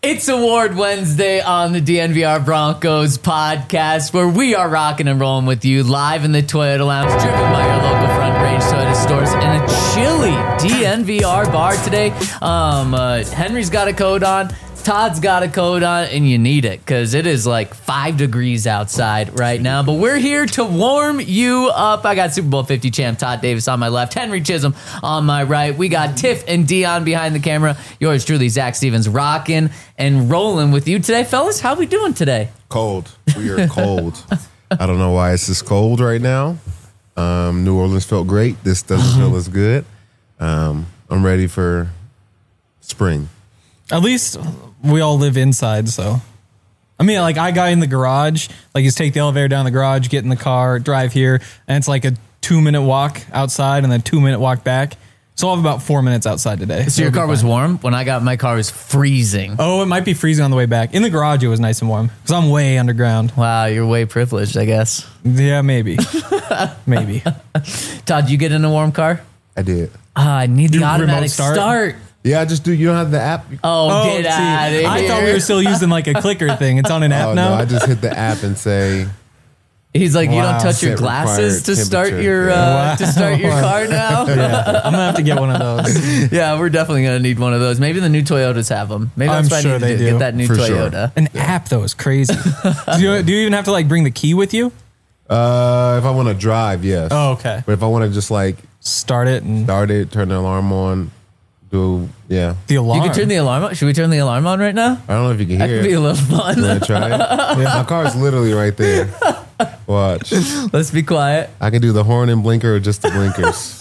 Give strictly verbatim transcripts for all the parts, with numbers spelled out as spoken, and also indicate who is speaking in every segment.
Speaker 1: It's Award Wednesday on the D N V R Broncos podcast, where we are rocking and rolling with you live in the Toyota Lounge, driven by your local Front Range Toyota stores in a chilly D N V R bar today. Um, uh, Henry's got a coat on. Todd's got a coat on, and you need it because it is like five degrees outside right now. But we're here to warm you up. I got Super Bowl fifty champ Todd Davis on my left, Henry Chisholm on my right. We got Tiff and Dion behind the camera. Yours truly, Zach Stevens, rocking and rolling with you today. Fellas, how we doing today?
Speaker 2: Cold. We are cold. I don't know why it's this cold right now. Um, New Orleans felt great. This doesn't feel as good. Um, I'm ready for spring.
Speaker 3: At least we all live inside, so. I mean, like, I got in the garage. Like, you just take the elevator down the garage, get in the car, drive here, and it's like a two-minute walk outside and then two-minute walk back. So I'll have about four minutes outside today.
Speaker 1: So your car was warm? When I got my car, it was freezing.
Speaker 3: Oh, it might be freezing on the way back. In the garage, it was nice and warm because I'm way underground.
Speaker 1: Wow, you're way privileged, I guess.
Speaker 3: Yeah, maybe. Maybe.
Speaker 1: Todd, did you get in a warm car?
Speaker 2: I did.
Speaker 1: Ah, I need the
Speaker 3: Your
Speaker 1: automatic
Speaker 3: remote start?
Speaker 1: start.
Speaker 2: Yeah, I just do. You don't have the app?
Speaker 1: Oh,
Speaker 3: Oh,
Speaker 1: get
Speaker 3: see,
Speaker 1: out of here.
Speaker 3: I thought we were still using like a clicker thing. It's on an app
Speaker 2: Oh,
Speaker 3: now.
Speaker 2: no, I just hit the app and say,
Speaker 1: He's like, you
Speaker 3: Wow.
Speaker 1: don't touch your
Speaker 2: Set
Speaker 1: glasses to
Speaker 2: required
Speaker 1: start
Speaker 2: temperature.
Speaker 1: your uh,
Speaker 3: Wow.
Speaker 1: to start your car now.
Speaker 3: Yeah, I'm gonna have to get one of those.
Speaker 1: Yeah, we're definitely gonna need one of those. Maybe the new Toyotas have them. Maybe that's
Speaker 3: I'm
Speaker 1: what
Speaker 3: sure
Speaker 1: I need to
Speaker 3: they
Speaker 1: do.
Speaker 3: do.
Speaker 1: Get that new
Speaker 2: For sure.
Speaker 1: Toyota.
Speaker 3: An app though is crazy. do, you, do you even have to like bring the key with you?
Speaker 2: uh, if I want to drive, yes.
Speaker 3: Oh, okay.
Speaker 2: But if I want to just like
Speaker 3: Start it and
Speaker 2: start it, turn the alarm on, do, yeah.
Speaker 3: the alarm.
Speaker 1: You can turn the alarm on. Should we turn the alarm on right now?
Speaker 2: I don't know if you can
Speaker 1: That
Speaker 2: hear
Speaker 1: could be a
Speaker 2: it.
Speaker 1: little fun.
Speaker 2: You want to try it? My car's literally right there. Watch.
Speaker 1: Let's be quiet.
Speaker 2: I can do the horn and blinker or just the blinkers.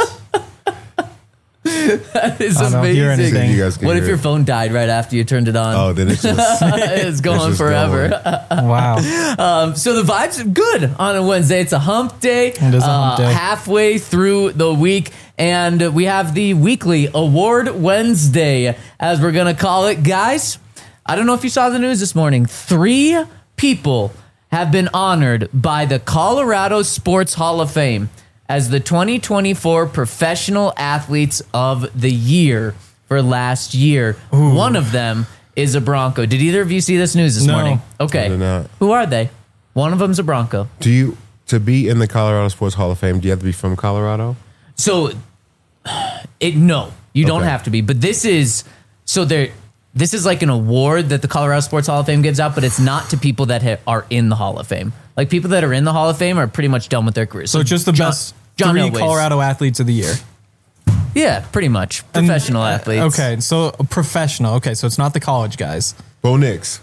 Speaker 1: That is
Speaker 3: I don't hear
Speaker 1: amazing.
Speaker 3: anything.
Speaker 2: You guys can
Speaker 1: What if
Speaker 2: hear
Speaker 1: your
Speaker 2: it.
Speaker 1: phone died right after you turned it on?
Speaker 2: Oh, then it's just...
Speaker 1: It's going
Speaker 2: just
Speaker 1: forever.
Speaker 2: going.
Speaker 3: Wow.
Speaker 1: Um, so the vibes are good on a Wednesday. It's a hump day.
Speaker 3: It is a hump
Speaker 1: uh,
Speaker 3: day.
Speaker 1: Halfway through the week. And we have the weekly Award Wednesday, as we're going to call it. Guys, I don't know if you saw the news this morning. Three people have been honored by the Colorado Sports Hall of Fame as the twenty twenty-four Professional Athletes of the Year for last year. One of them is a Bronco. Did either of you see this news this
Speaker 3: No.
Speaker 1: morning?
Speaker 2: I
Speaker 1: Okay.
Speaker 2: did not.
Speaker 1: Who are they? One of them's a Bronco.
Speaker 2: Do you, to be in the Colorado Sports Hall of Fame, do you have to be from Colorado?
Speaker 1: So, it no, you don't
Speaker 2: Okay.
Speaker 1: have to be. But this is so there. This is like an award that the Colorado Sports Hall of Fame gives out, but it's not to people that ha- are in the Hall of Fame. Like people that are in the Hall of Fame are pretty much done with their careers.
Speaker 3: So just the
Speaker 1: John-
Speaker 3: best
Speaker 1: John
Speaker 3: three
Speaker 1: Elway's.
Speaker 3: Colorado athletes of the year.
Speaker 1: Yeah, pretty much
Speaker 3: And-
Speaker 1: professional athletes.
Speaker 3: Okay, so professional. Okay, so it's not the college guys.
Speaker 2: Bo Nix.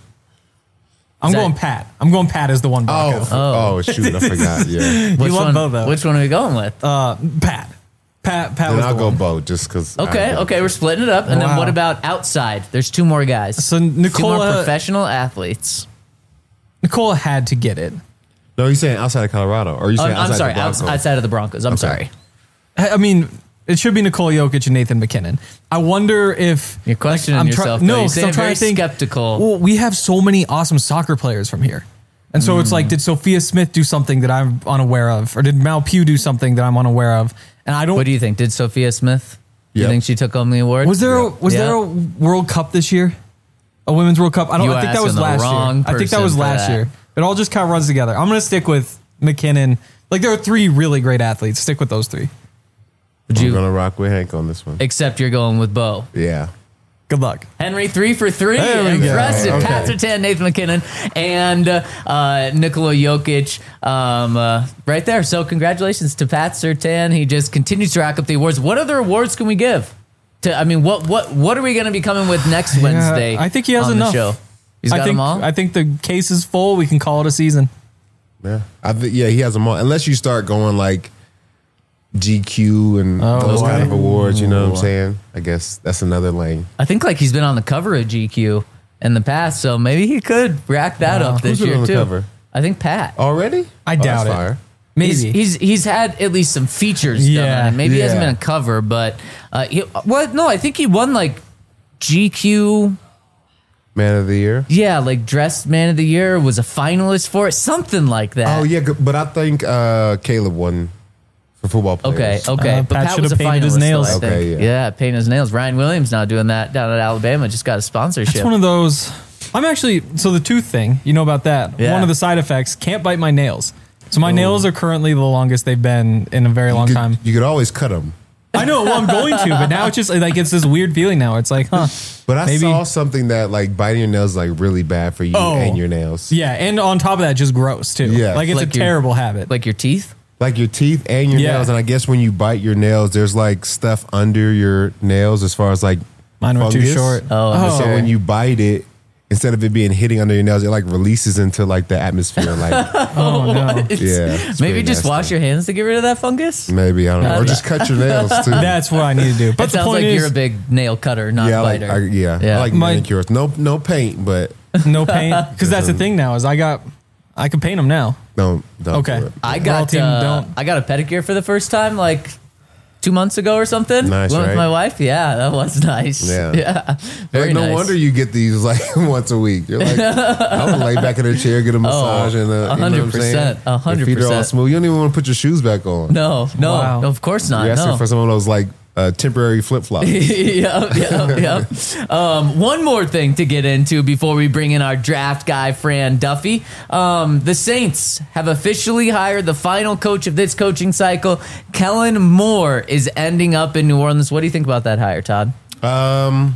Speaker 3: I'm
Speaker 1: Is that-
Speaker 3: going Pat. I'm going Pat as the one Bronco.
Speaker 2: Oh, oh, shoot, I forgot. Yeah.
Speaker 1: Which
Speaker 3: You love
Speaker 1: one?
Speaker 3: Bo, though.
Speaker 1: Which one are we going with?
Speaker 3: Uh, Pat. Pat. Pat
Speaker 2: Then
Speaker 3: was
Speaker 2: I'll
Speaker 3: the
Speaker 2: go
Speaker 3: one.
Speaker 2: Bo just because.
Speaker 1: Okay, okay, we're splitting it up. And then
Speaker 3: Wow.
Speaker 1: what about outside? There's two more guys.
Speaker 3: So
Speaker 1: two more
Speaker 3: Nicola,
Speaker 1: professional athletes.
Speaker 3: Nicola had to get it.
Speaker 2: No, you're saying outside of Colorado. Or are you
Speaker 1: Oh,
Speaker 2: saying
Speaker 1: I'm
Speaker 2: outside
Speaker 1: sorry,
Speaker 2: the
Speaker 1: outs-
Speaker 2: Broncos?
Speaker 1: outside of the Broncos. I'm
Speaker 2: Okay.
Speaker 1: sorry.
Speaker 3: I I mean, it should be Nikola Jokic and Nathan McKinnon. I wonder if
Speaker 1: You're questioning
Speaker 3: I'm
Speaker 1: yourself.
Speaker 3: Try,
Speaker 1: though.
Speaker 3: no,
Speaker 1: You're
Speaker 3: 'cause
Speaker 1: saying
Speaker 3: I'm trying
Speaker 1: very
Speaker 3: to think.
Speaker 1: skeptical.
Speaker 3: Well, we have so many awesome soccer players from here, and so it's like, did Sophia Smith do something that I'm unaware of, or did Mal Pugh do something that I'm unaware of? And I don't.
Speaker 1: What do you think? Did Sophia Smith? Do you
Speaker 2: Yep.
Speaker 1: think she took home the award?
Speaker 3: Was there a,
Speaker 2: Yeah.
Speaker 3: was
Speaker 1: Yeah.
Speaker 3: there a World Cup this year? A women's World Cup? I don't.
Speaker 1: You
Speaker 3: I think that
Speaker 1: asking
Speaker 3: was
Speaker 1: the
Speaker 3: last
Speaker 1: wrong
Speaker 3: year. I think that
Speaker 1: person
Speaker 3: was
Speaker 1: for
Speaker 3: last
Speaker 1: that.
Speaker 3: year. It all just kind of runs together. I'm gonna stick with McKinnon. Like there are three really great athletes. Stick with those three.
Speaker 1: Would
Speaker 2: I'm
Speaker 1: you?
Speaker 2: going to rock with Hank on this one.
Speaker 1: Except you're going with Bo.
Speaker 2: Yeah.
Speaker 3: Good luck.
Speaker 1: Henry, three for three.
Speaker 3: There we go.
Speaker 1: Impressive.
Speaker 3: Okay.
Speaker 1: Pat Sertan, Nathan McKinnon, and uh, uh, Nikola Jokic um, uh, right there. So congratulations to Pat Sertan. He just continues to rack up the awards. What other awards can we give? To I mean, what what what are we going to be coming with next Wednesday?
Speaker 3: I think he has
Speaker 1: on
Speaker 3: enough.
Speaker 1: The show? He's
Speaker 3: I
Speaker 1: got
Speaker 3: think,
Speaker 1: them all.
Speaker 3: I think the case is full. We can call it a season.
Speaker 2: Yeah. I th- yeah, he has them all. Unless you start going like G Q and
Speaker 3: Oh,
Speaker 2: those kind of
Speaker 1: wow.
Speaker 2: awards, you know what I'm saying? I guess that's another lane.
Speaker 1: I think like he's been on the cover of G Q in the past, so maybe he could rack that
Speaker 3: Wow.
Speaker 1: up this
Speaker 2: Who's been
Speaker 1: year
Speaker 2: on the
Speaker 1: too.
Speaker 2: cover?
Speaker 1: I think Pat.
Speaker 2: Already?
Speaker 3: I
Speaker 2: Oh,
Speaker 3: doubt
Speaker 2: that's
Speaker 3: it.
Speaker 2: fire.
Speaker 3: Maybe.
Speaker 1: He's, he's he's had at least some features done
Speaker 3: Yeah.
Speaker 1: on it. Maybe he hasn't
Speaker 2: Yeah.
Speaker 1: been a cover, but uh, he, well, no, I think he won like G Q.
Speaker 2: Man of the year.
Speaker 1: Yeah, like dressed man of the year, was a finalist for it, something like that.
Speaker 2: Oh, yeah, g- but I think uh, Caleb won for football
Speaker 1: Okay,
Speaker 2: players.
Speaker 1: okay,
Speaker 3: Uh,
Speaker 1: but
Speaker 3: Pat
Speaker 1: Pat
Speaker 3: should
Speaker 1: was a
Speaker 3: have painted his
Speaker 1: finalist,
Speaker 3: nails.
Speaker 1: though, I think.
Speaker 2: Okay,
Speaker 1: yeah.
Speaker 2: yeah.
Speaker 1: painting his nails. Ryan Williams now doing that down at Alabama. Just got a sponsorship.
Speaker 3: It's one of those. I'm actually, so the tooth thing, you know about that.
Speaker 1: Yeah.
Speaker 3: One of the side effects, can't bite my nails. So my nails are currently the longest they've been in a very long
Speaker 2: You could,
Speaker 3: time.
Speaker 2: you could always cut them.
Speaker 3: I know, well, I'm going to, but now it's just like, it's this weird feeling now. It's like, huh.
Speaker 2: But I
Speaker 3: Maybe-
Speaker 2: saw something that like biting your nails is like really bad for you
Speaker 3: Oh.
Speaker 2: and your nails.
Speaker 3: Yeah, and on top of that, just gross too.
Speaker 2: Yeah.
Speaker 3: Like it's
Speaker 1: Like
Speaker 3: a
Speaker 1: your-
Speaker 3: terrible habit.
Speaker 1: Like your teeth?
Speaker 2: Like your teeth and your
Speaker 3: Yeah.
Speaker 2: nails. And I guess when you bite your nails, there's like stuff under your nails as far as like
Speaker 3: Mine were too
Speaker 2: fungus.
Speaker 3: short.
Speaker 1: Oh,
Speaker 2: And so
Speaker 1: okay.
Speaker 2: when you bite it, instead of it being hitting under your nails, it like releases into like the atmosphere. Like,
Speaker 3: Oh no.
Speaker 2: yeah. it's
Speaker 1: Maybe
Speaker 2: pretty
Speaker 1: just
Speaker 2: nasty.
Speaker 1: wash your hands to get rid of that fungus?
Speaker 2: Maybe, I don't know. Or just cut your nails too.
Speaker 3: That's what I need to do. But
Speaker 1: It
Speaker 3: the
Speaker 1: sounds
Speaker 3: point
Speaker 1: like
Speaker 3: is,
Speaker 1: you're a big nail cutter, not
Speaker 2: yeah, I like,
Speaker 1: biter.
Speaker 2: I, yeah,
Speaker 1: Yeah.
Speaker 2: I like
Speaker 3: My-
Speaker 2: manicures. No, no paint, but
Speaker 3: no paint. Because that's the thing now is I got, I can paint them now.
Speaker 2: don't. don't
Speaker 3: Okay.
Speaker 2: do it.
Speaker 1: I
Speaker 3: Royal
Speaker 1: got
Speaker 3: team,
Speaker 1: uh,
Speaker 3: don't.
Speaker 1: I got a pedicure for the first time like two months ago or something.
Speaker 2: Nice,
Speaker 1: Went
Speaker 2: right?
Speaker 1: with my wife. Yeah, that was nice.
Speaker 2: Yeah.
Speaker 1: yeah. Very
Speaker 2: Like, no
Speaker 1: nice.
Speaker 2: wonder you get these like once a week. You're like, I would lay back in a chair, get a massage, and uh,
Speaker 1: a
Speaker 2: you know what
Speaker 1: hundred
Speaker 2: I'm saying?
Speaker 1: percent, a hundred
Speaker 2: Your feet are all
Speaker 1: percent.
Speaker 2: smooth. You don't even want to put your shoes back on.
Speaker 1: No, no,
Speaker 3: Wow.
Speaker 1: of course not.
Speaker 2: You're asking
Speaker 1: No.
Speaker 2: for some of those like uh, temporary flip flops.
Speaker 1: yeah, yeah, yeah. Um, one more thing to get into before we bring in our draft guy, Fran Duffy. Um, the Saints have officially hired the final coach of this coaching cycle. Kellen Moore is ending up in New Orleans. What do you think about that hire, Todd?
Speaker 2: Um,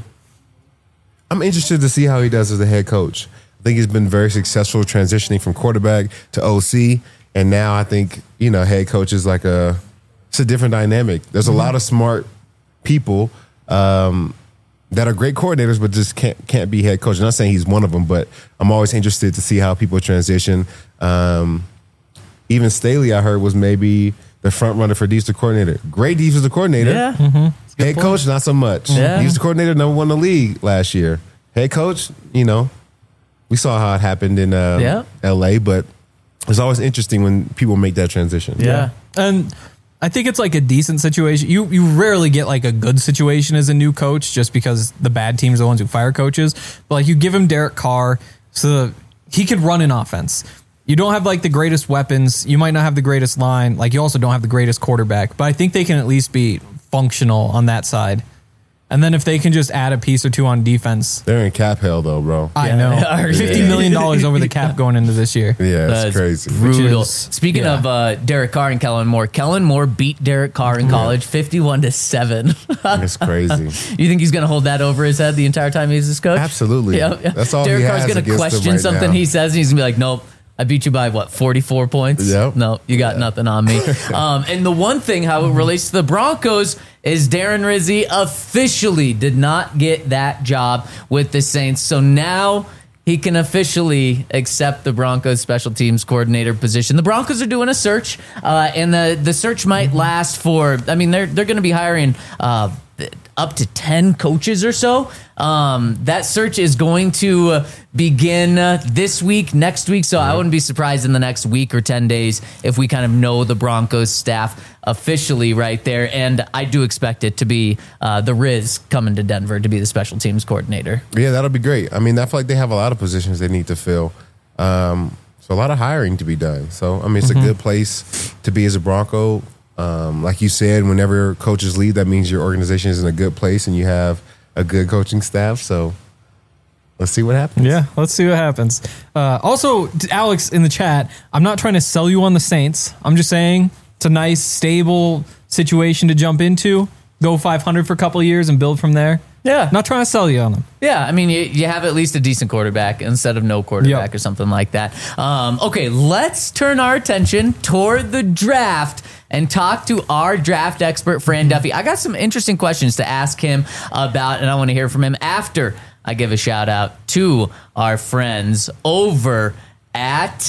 Speaker 2: I'm interested to see how he does as a head coach. I think he's been very successful transitioning from quarterback to O C, and now I think you know head coach is like a it's a different dynamic. There's a lot of smart people um, that are great coordinators, but just can't can't be head coach. I'm not saying he's one of them, but I'm always interested to see how people transition. Um, even Staley, I heard, was maybe the front runner for defensive coordinator. Great defensive coordinator. Head
Speaker 1: point.
Speaker 2: coach, not so much.
Speaker 1: Yeah.
Speaker 2: Defensive coordinator, number one in the league last year. Head coach, you know, we saw how it happened in uh,
Speaker 1: Yeah.
Speaker 2: L A, but it's always interesting when people make that transition.
Speaker 1: Yeah.
Speaker 3: And I think it's like a decent situation. You you rarely get like a good situation as a new coach just because the bad teams are the ones who fire coaches. But like you give him Derek Carr so he could run an offense. You don't have like the greatest weapons. You might not have the greatest line. Like you also don't have the greatest quarterback. But I think they can at least be functional on that side. And then if they can just add a piece or two on defense,
Speaker 2: They're in cap hell, though, bro.
Speaker 3: I
Speaker 1: Yeah,
Speaker 3: know.
Speaker 1: they are.
Speaker 3: fifty million dollars over the cap going into this year.
Speaker 2: Yeah, it's
Speaker 1: That's
Speaker 2: crazy.
Speaker 1: brutal.
Speaker 3: Which is-
Speaker 1: Speaking
Speaker 3: yeah.
Speaker 1: of uh, Derek Carr and Kellen Moore, Kellen Moore beat Derek Carr in college fifty-one to seven.
Speaker 2: It's crazy.
Speaker 1: You think he's going to hold that over his head the entire time he's his coach?
Speaker 2: Absolutely.
Speaker 1: Yeah, yeah.
Speaker 2: That's all
Speaker 1: Derek
Speaker 2: he
Speaker 1: Carr's
Speaker 2: has
Speaker 1: gonna
Speaker 2: against them
Speaker 1: question
Speaker 2: right
Speaker 1: something
Speaker 2: now.
Speaker 1: he says, and he's going to be like, nope. I beat you by what, forty-four points?
Speaker 2: Yep.
Speaker 1: No, you got
Speaker 2: Yeah.
Speaker 1: nothing on me. um, and the one thing, how it relates to the Broncos, is Darren Rizzi officially did not get that job with the Saints. So now he can officially accept the Broncos special teams coordinator position. The Broncos are doing a search, uh, and the, the search might last for, I mean, they're, they're going to be hiring uh, up to ten coaches or so. Um, that search is going to uh, begin uh, this week, next week. So I wouldn't be surprised in the next week or ten days if we kind of know the Broncos staff officially right there. And I do expect it to be uh, the Riz coming to Denver to be the special teams coordinator.
Speaker 2: Yeah, that'll be great. I mean, I feel like they have a lot of positions they need to fill. Um, so a lot of hiring to be done. So, I mean, it's
Speaker 3: Mm-hmm.
Speaker 2: a good place to be as a Bronco. Um, like you said, whenever coaches leave, that means your organization is in a good place and you have a good coaching staff. So let's see what happens.
Speaker 3: Yeah, let's see what happens. Uh, also, to Alex in the chat, I'm not trying to sell you on the Saints. I'm just saying it's a nice, stable situation to jump into. Go five hundred for a couple of years and build from there.
Speaker 1: Yeah.
Speaker 3: Not trying to sell you on them.
Speaker 1: Yeah, I mean, you, you have at least a decent quarterback instead of no quarterback
Speaker 3: Yep.
Speaker 1: or something like that. Um, okay, let's turn our attention toward the draft and talk to our draft expert, Fran Duffy. I got some interesting questions to ask him about, and I want to hear from him after I give a shout out to our friends over at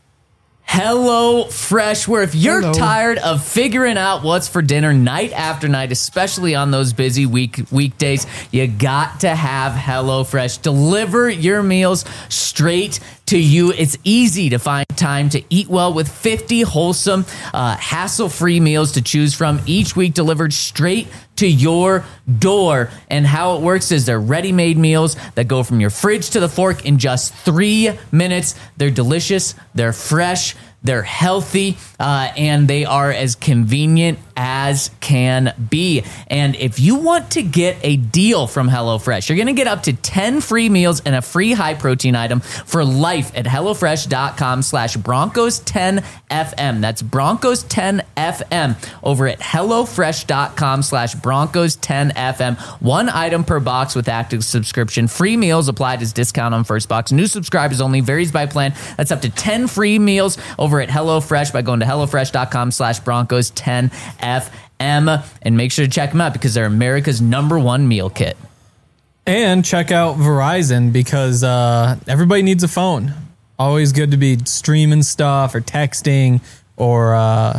Speaker 1: Hello Fresh, where if you're
Speaker 2: Hello.
Speaker 1: tired of figuring out what's for dinner night after night, especially on those busy week weekdays, you got to have Hello Fresh deliver your meals straight to you. It's easy to find time to eat well with fifty wholesome, uh, hassle-free meals to choose from each week, delivered straight to your door. And how it works is they're ready-made meals that go from your fridge to the fork in just three minutes. They're delicious, they're fresh, they're healthy, uh, and they are as convenient as can be. And if you want to get a deal from HelloFresh, you're going to get up to ten free meals and a free high protein item for life at HelloFresh.com slash Broncos 10 FM. That's Broncos 10 F M over at HelloFresh.com slash Broncos 10 F M. One item per box with active subscription. Free meals applied as discount on first box. New subscribers only. Varies by plan. That's up to ten free meals over at HelloFresh by going to HelloFresh.com slash Broncos 10 F M. And make sure to check them out because they're America's number one meal kit.
Speaker 3: And check out Verizon because uh, everybody needs a phone. Always good to be streaming stuff or texting or uh,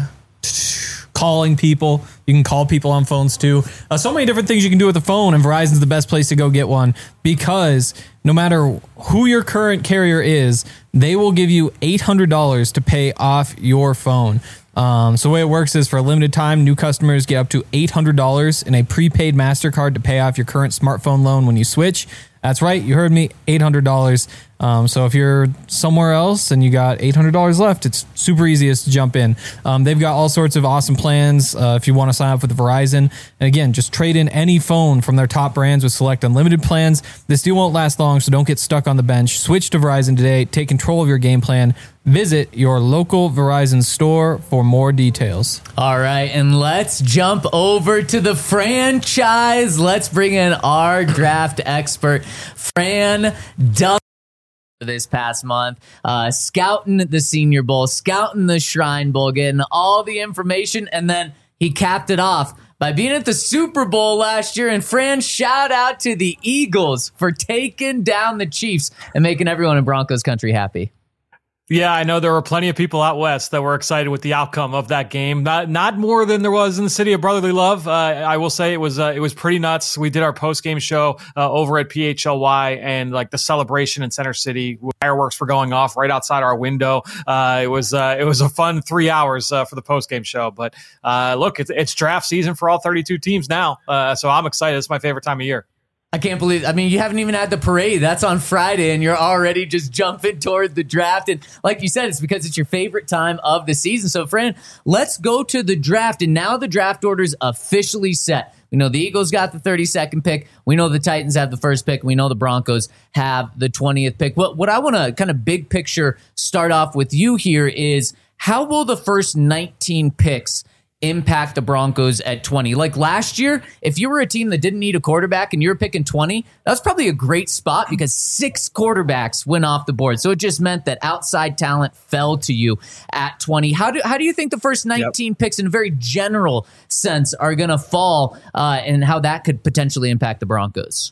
Speaker 3: calling people. You can call people on phones too. Uh, so many different things you can do with the phone, and Verizon's the best place to go get one because no matter who your current carrier is, they will give you eight hundred dollars to pay off your phone. Um, so the way it works is for a limited time, new customers get up to eight hundred dollars in a prepaid MasterCard to pay off your current smartphone loan when you switch. That's right. You heard me. eight hundred dollars. Um, so if you're somewhere else and you got eight hundred dollars left, it's super easiest to jump in. Um, they've got all sorts of awesome plans uh, if you want to sign up with Verizon. And again, just trade in any phone from their top brands with select unlimited plans. This deal won't last long, so don't get stuck on the bench. Switch to Verizon today. Take control of your game plan. Visit your local Verizon store for more details.
Speaker 1: All right, and let's jump over to the franchise. Let's bring in our draft expert, Fran Dunn. This past month, uh, scouting the Senior Bowl, scouting the Shrine Bowl, getting all the information, and then he capped it off by being at the Super Bowl last year. And Fran, shout out to the Eagles for taking down the Chiefs and making everyone in Broncos country happy.
Speaker 4: Yeah, I know there were plenty of people out west that were excited with the outcome of that game. Not not more than there was in the city of brotherly love. Uh, I will say it was uh, it was pretty nuts. We did our post game show uh, over at P H L Y, and like the celebration in Center City, fireworks were going off right outside our window. Uh, it was uh, it was a fun three hours uh, for the post game show. But uh, look, it's, it's draft season for all thirty-two teams now, uh, so I'm excited. It's my favorite time of year.
Speaker 1: I can't believe, I mean, you haven't even had the parade. That's on Friday, and you're already just jumping toward the draft. And like you said, it's because it's your favorite time of the season. So, Fran, let's go to the draft. And now the draft order is officially set. We know the Eagles got the thirty-second pick. We know the Titans have the first pick. We know the Broncos have the twentieth pick. What, what I want to kind of big picture start off with you here is, how will the first nineteen picks impact the Broncos at twenty? Like last year, if you were a team that didn't need a quarterback and you were picking twenty, that was probably a great spot because six quarterbacks went off the board. So it just meant that outside talent fell to you at twenty. How do how do you think the first nineteen yep. picks in a very general sense are going to fall uh, and how that could potentially impact the Broncos?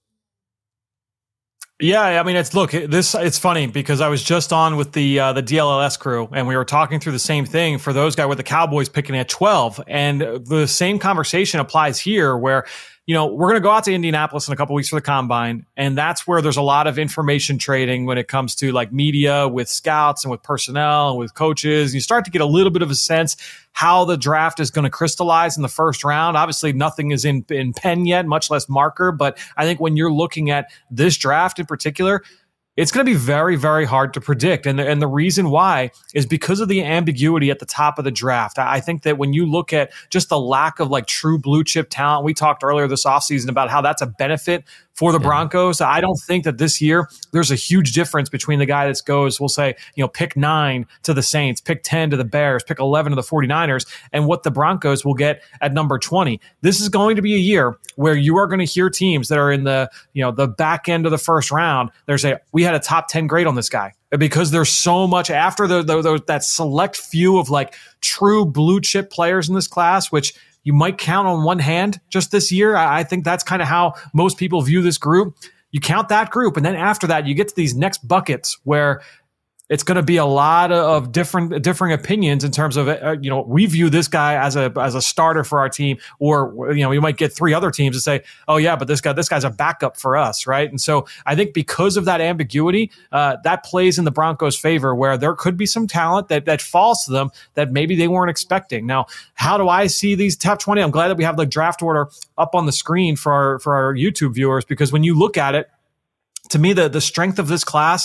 Speaker 4: Yeah, I mean, it's look, this it's funny because I was just on with the uh, the D L L S crew and we were talking through the same thing for those guys with the Cowboys picking at twelve, and the same conversation applies here where, you know, we're going to go out to Indianapolis in a couple weeks for the combine, and that's where there's a lot of information trading when it comes to like media with scouts and with personnel and with coaches. You start to get a little bit of a sense how the draft is going to crystallize in the first round. Obviously, nothing is in, in pen yet, much less marker. But I think when you're looking at this draft in particular, it's going to be very, very hard to predict. And the, and the reason why is because of the ambiguity at the top of the draft. I think that when you look at just the lack of like true blue chip talent, we talked earlier this offseason about how that's a benefit for the yeah. Broncos. I don't think that this year there's a huge difference between the guy that goes, we'll say, you know, pick nine to the Saints, pick ten to the Bears, pick eleven to the 49ers, and what the Broncos will get at number twenty. This is going to be a year where you are going to hear teams that are in the, you know, the back end of the first round. They're saying, we had a top ten grade on this guy. Because there's so much after the, the, the that select few of like true blue chip players in this class, which you might count on one hand just this year. I, I think that's kind of how most people view this group. You count that group, and then after that, you get to these next buckets where it's going to be a lot of different differing opinions in terms of, uh, you know, we view this guy as a as a starter for our team, or, you know, we might get three other teams to say, oh yeah, but this guy this guy's a backup for us, right? And so I think because of that ambiguity, uh, that plays in the Broncos' favor, where there could be some talent that that falls to them that maybe they weren't expecting. Now, how do I see these top twenty? I'm glad that we have the draft order up on the screen for our for our YouTube viewers, because when you look at it, to me, the the strength of this class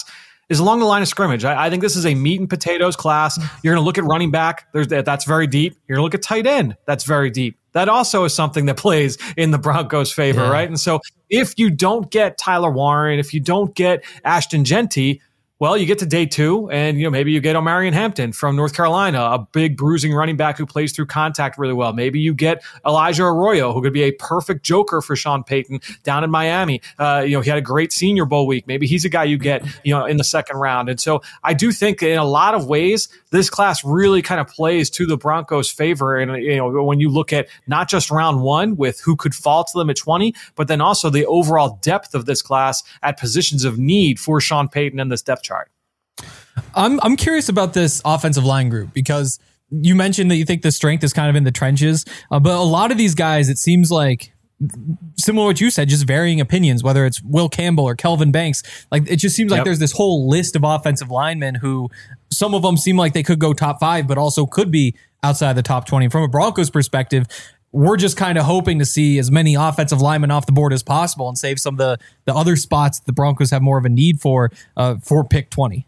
Speaker 4: is along the line of scrimmage. I, I think this is a meat and potatoes class. You're going to look at running back. There's that. That's very deep. You're going to look at tight end. That's very deep. That also is something that plays in the Broncos' favor, yeah. right? And so if you don't get Tyler Warren, if you don't get Ashton Jeanty, well, you get to day two, and you know maybe you get Omarion Hampton from North Carolina, a big bruising running back who plays through contact really well. Maybe you get Elijah Arroyo, who could be a perfect joker for Sean Payton down in Miami. Uh, you know, he had a great Senior Bowl week. Maybe he's a guy you get, you know, in the second round. And so I do think in a lot of ways, this class really kind of plays to the Broncos' favor. And you know, when you look at not just round one with who could fall to them at twenty, but then also the overall depth of this class at positions of need for Sean Payton and this depth chart.
Speaker 3: I'm I'm curious about this offensive line group because you mentioned that you think the strength is kind of in the trenches, uh, but a lot of these guys, it seems like, similar to what you said, just varying opinions, whether it's Will Campbell or Kelvin Banks. Like, it just seems like yep. there's this whole list of offensive linemen who some of them seem like they could go top five, but also could be outside the top twenty. From a Broncos perspective, we're just kind of hoping to see as many offensive linemen off the board as possible and save some of the, the other spots the Broncos have more of a need for, uh, for pick twenty.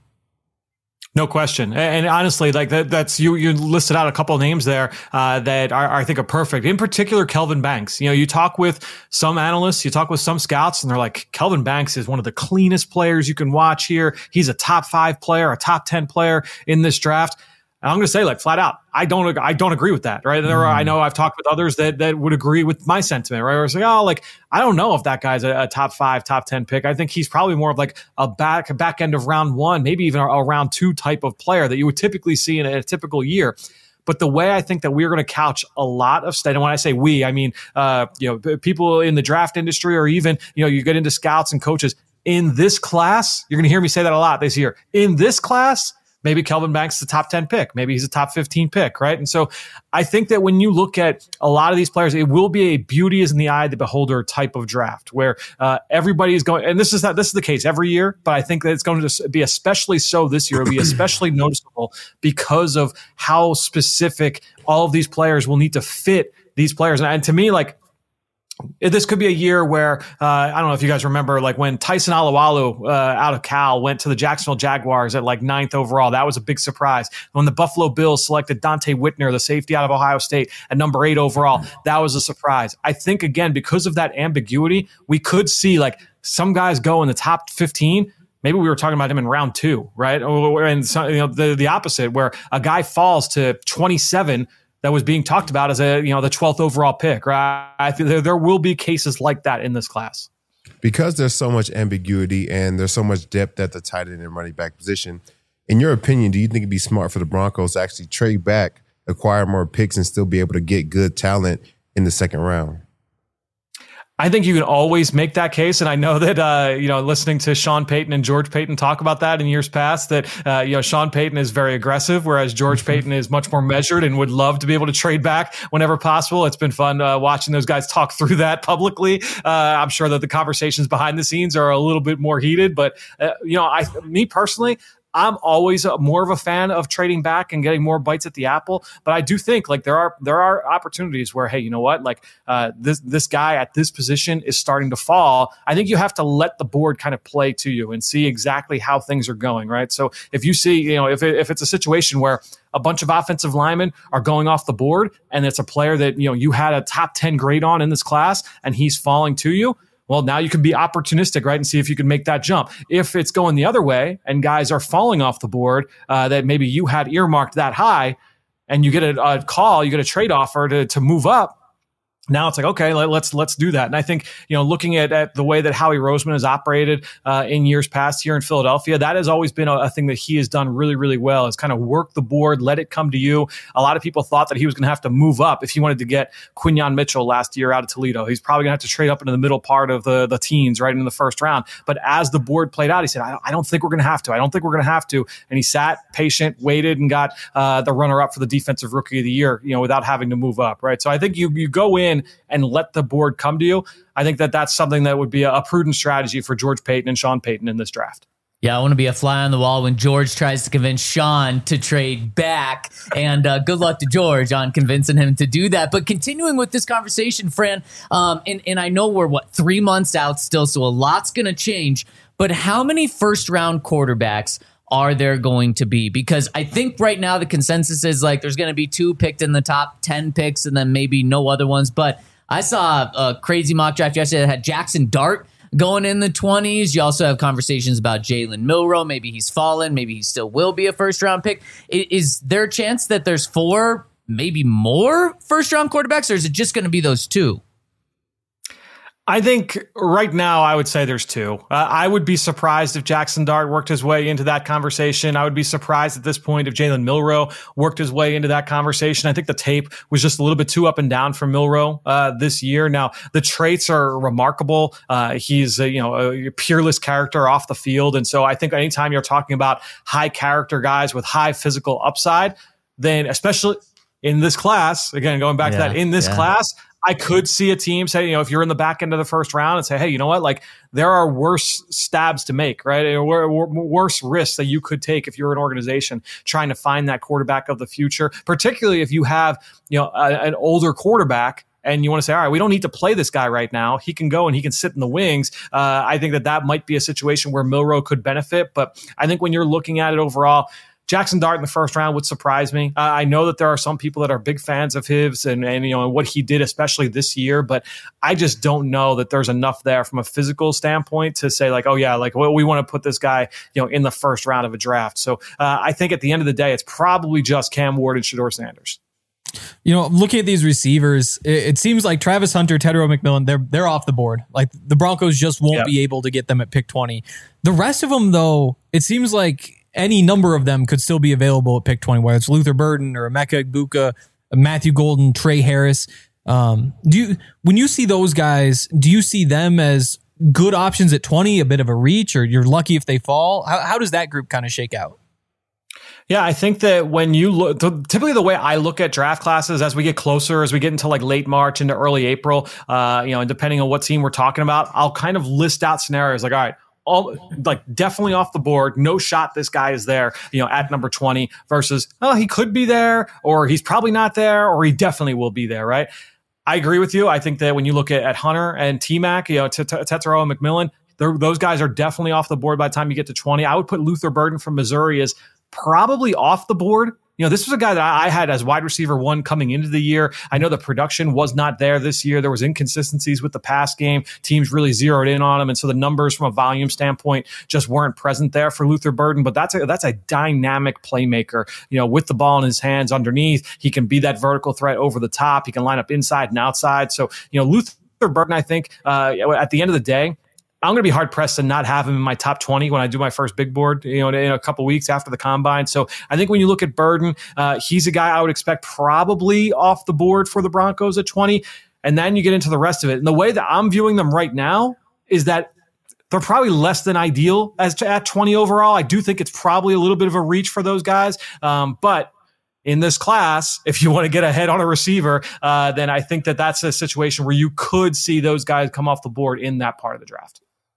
Speaker 4: No question. And honestly, like that, that's you, you listed out a couple of names there, uh, that are, I think are perfect. In particular, Kelvin Banks. You know, you talk with some analysts, you talk with some scouts, and they're like, Kelvin Banks is one of the cleanest players you can watch here. He's a top five player, a top ten player in this draft. And I'm going to say, like, flat out, I don't, I don't agree with that, right? There are, I know I've talked with others that that would agree with my sentiment, right? Where it's like, oh, like, I don't know if that guy's a, a top five, top ten pick. I think he's probably more of like a back, a back end of round one, maybe even a, a round two type of player that you would typically see in a, a typical year. But the way I think that we're going to couch a lot of state, and when I say we, I mean, uh, you know, people in the draft industry, or even, you know, you get into scouts and coaches in this class. You're going to hear me say that a lot this year. In this class, maybe Kelvin Banks is a top ten pick. Maybe he's a top fifteen pick, right? And so I think that when you look at a lot of these players, it will be a beauty is in the eye of the beholder type of draft where uh, everybody is going, and this is not, this is the case every year, but I think that it's going to be especially so this year. It'll be especially noticeable because of how specific all of these players will need to fit these players. And, and to me, like, this could be a year where, uh, I don't know if you guys remember, like when Tyson Alualu uh, out of Cal went to the Jacksonville Jaguars at like ninth overall. That was a big surprise. When the Buffalo Bills selected Dante Whitner, the safety out of Ohio State, at number eight overall, that was a surprise. I think, again, because of that ambiguity, we could see like some guys go in the top fifteen. Maybe we were talking about him in round two, right? And so, you know, the, the opposite, where a guy falls to twenty-seven that was being talked about as a, you know, the twelfth overall pick, right? I think there, there will be cases like that in this class.
Speaker 2: Because there's so much ambiguity and there's so much depth at the tight end and running back position, in your opinion, do you think it'd be smart for the Broncos to actually trade back, acquire more picks, and still be able to get good talent in the second round?
Speaker 4: I think you can always make that case. And I know that, uh, you know, listening to Sean Payton and George Payton talk about that in years past, that, uh, you know, Sean Payton is very aggressive, whereas George Payton is much more measured and would love to be able to trade back whenever possible. It's been fun uh, watching those guys talk through that publicly. Uh, I'm sure that the conversations behind the scenes are a little bit more heated, but, uh, you know, I, me personally, I'm always a, more of a fan of trading back and getting more bites at the apple. But I do think like there are there are opportunities where, hey, you know what, like uh, this this guy at this position is starting to fall. I think you have to let the board kind of play to you and see exactly how things are going, right? So if you see, you know, if it, if it's a situation where a bunch of offensive linemen are going off the board and it's a player that, you know, you had a top ten grade on in this class and he's falling to you, well, now you can be opportunistic, right, and see if you can make that jump. If it's going the other way and guys are falling off the board uh, that maybe you had earmarked that high and you get a, a call, you get a trade offer to to move up, now it's like, okay, let, let's let's do that. And I think, you know, looking at, at the way that Howie Roseman has operated uh, in years past here in Philadelphia, that has always been a, a thing that he has done really, really well, is kind of work the board, let it come to you. A lot of people thought that he was going to have to move up if he wanted to get Quinyon Mitchell last year out of Toledo. He's probably going to have to trade up into the middle part of the, the teens, right in the first round. But as the board played out, he said, I don't, I don't think we're going to have to. I don't think we're going to have to. And he sat patient, waited, and got uh, the runner-up for the Defensive Rookie of the Year, you know, without having to move up, right? So I think you you go in and let the board come to you. I think that that's something that would be a, a prudent strategy for George Payton and Sean Payton in this draft.
Speaker 1: Yeah, I want to be a fly on the wall when George tries to convince Sean to trade back. And uh, good luck to George on convincing him to do that. But continuing with this conversation, Fran, um, and, and I know we're, what, three months out still, so a lot's going to change. but how many first round quarterbacks are there going to be? Because I think right now the consensus is like there's going to be two picked in the top ten picks and then maybe no other ones. But I saw a crazy mock draft yesterday that had Jackson Dart going in the twenties. You also have conversations about Jalen Milroe. Maybe he's fallen. Maybe he still will be a first round pick. Is there a chance that there's four, maybe more first round quarterbacks, or is it just going to be those two?
Speaker 4: I think right now I would say there's two. Uh, I would be surprised if Jackson Dart worked his way into that conversation. I would be surprised at this point if Jalen Milroe worked his way into that conversation. I think the tape was just a little bit too up and down for Milroe uh, this year. Now, the traits are remarkable. Uh, he's a, you know, a peerless character off the field. And so I think anytime you're talking about high character guys with high physical upside, then especially in this class, again, going back
Speaker 1: yeah,
Speaker 4: to that, in this
Speaker 1: yeah.
Speaker 4: class, I could see a team say, you know, if you're in the back end of the first round and say, hey, you know what, like there are worse stabs to make, right? Or worse risks that you could take if you're an organization trying to find that quarterback of the future, particularly if you have, you know, a, an older quarterback and you want to say, all right, we don't need to play this guy right now. He can go and he can sit in the wings. Uh, I think that that might be a situation where Milroe could benefit. But I think when you're looking at it overall, Jackson Dart in the first round would surprise me. Uh, I know that there are some people that are big fans of his and, and you know what he did, especially this year. But I just don't know that there's enough there from a physical standpoint to say like, oh yeah, like well, we want to put this guy, you know, in the first round of a draft. So uh, I think at the end of the day, it's probably just Cam Ward and Shedeur Sanders.
Speaker 3: You know, looking at these receivers, it, it seems like Travis Hunter, Tetairoa McMillan, they're they're off the board. Like the Broncos just won't yep. be able to get them at pick twenty. The rest of them, though, it seems like any number of them could still be available at pick twenty, whether it's Luther Burden or Emeka Egbuka, Matthew Golden, Trey Harris. Um, do you, when you see those guys, do you see them as good options at twenty, a bit of a reach, or you're lucky if they fall? How, how does that group kind of shake out?
Speaker 4: Yeah, I think that when you look, typically the way I look at draft classes as we get closer, as we get into like late March into early April, uh, you know, and depending on what team we're talking about, I'll kind of list out scenarios like, all right, all like definitely off the board, no shot this guy is there, you know, at number twenty versus, oh, he could be there or he's probably not there or he definitely will be there, right? I agree with you. I think that when you look at, at Hunter and T-Mac, you know, Tetairoa and McMillan, those guys are definitely off the board by the time you get to twenty. I would put Luther Burden from Missouri as probably off the board. You know, this was a guy that I had as wide receiver one coming into the year. I know the production was not there this year. There was inconsistencies with the pass game. Teams really zeroed in on him. And so the numbers from a volume standpoint just weren't present there for Luther Burden. But that's a, that's a dynamic playmaker, you know, with the ball in his hands underneath. He can be that vertical threat over the top. He can line up inside and outside. So, you know, Luther Burden, I think uh, at the end of the day, I'm going to be hard pressed to not have him in my top twenty when I do my first big board, you know, in a couple weeks after the combine. So I think when you look at Burden, uh, he's a guy I would expect probably off the board for the Broncos at twenty. And then you get into the rest of it. And the way that I'm viewing them right now is that they're probably less than ideal as to at twenty overall. I do think it's probably a little bit of a reach for those guys. Um, but in this class, if you want to get ahead on a receiver, uh, then I think that that's a situation where you could see those guys come off the board in that part of the draft.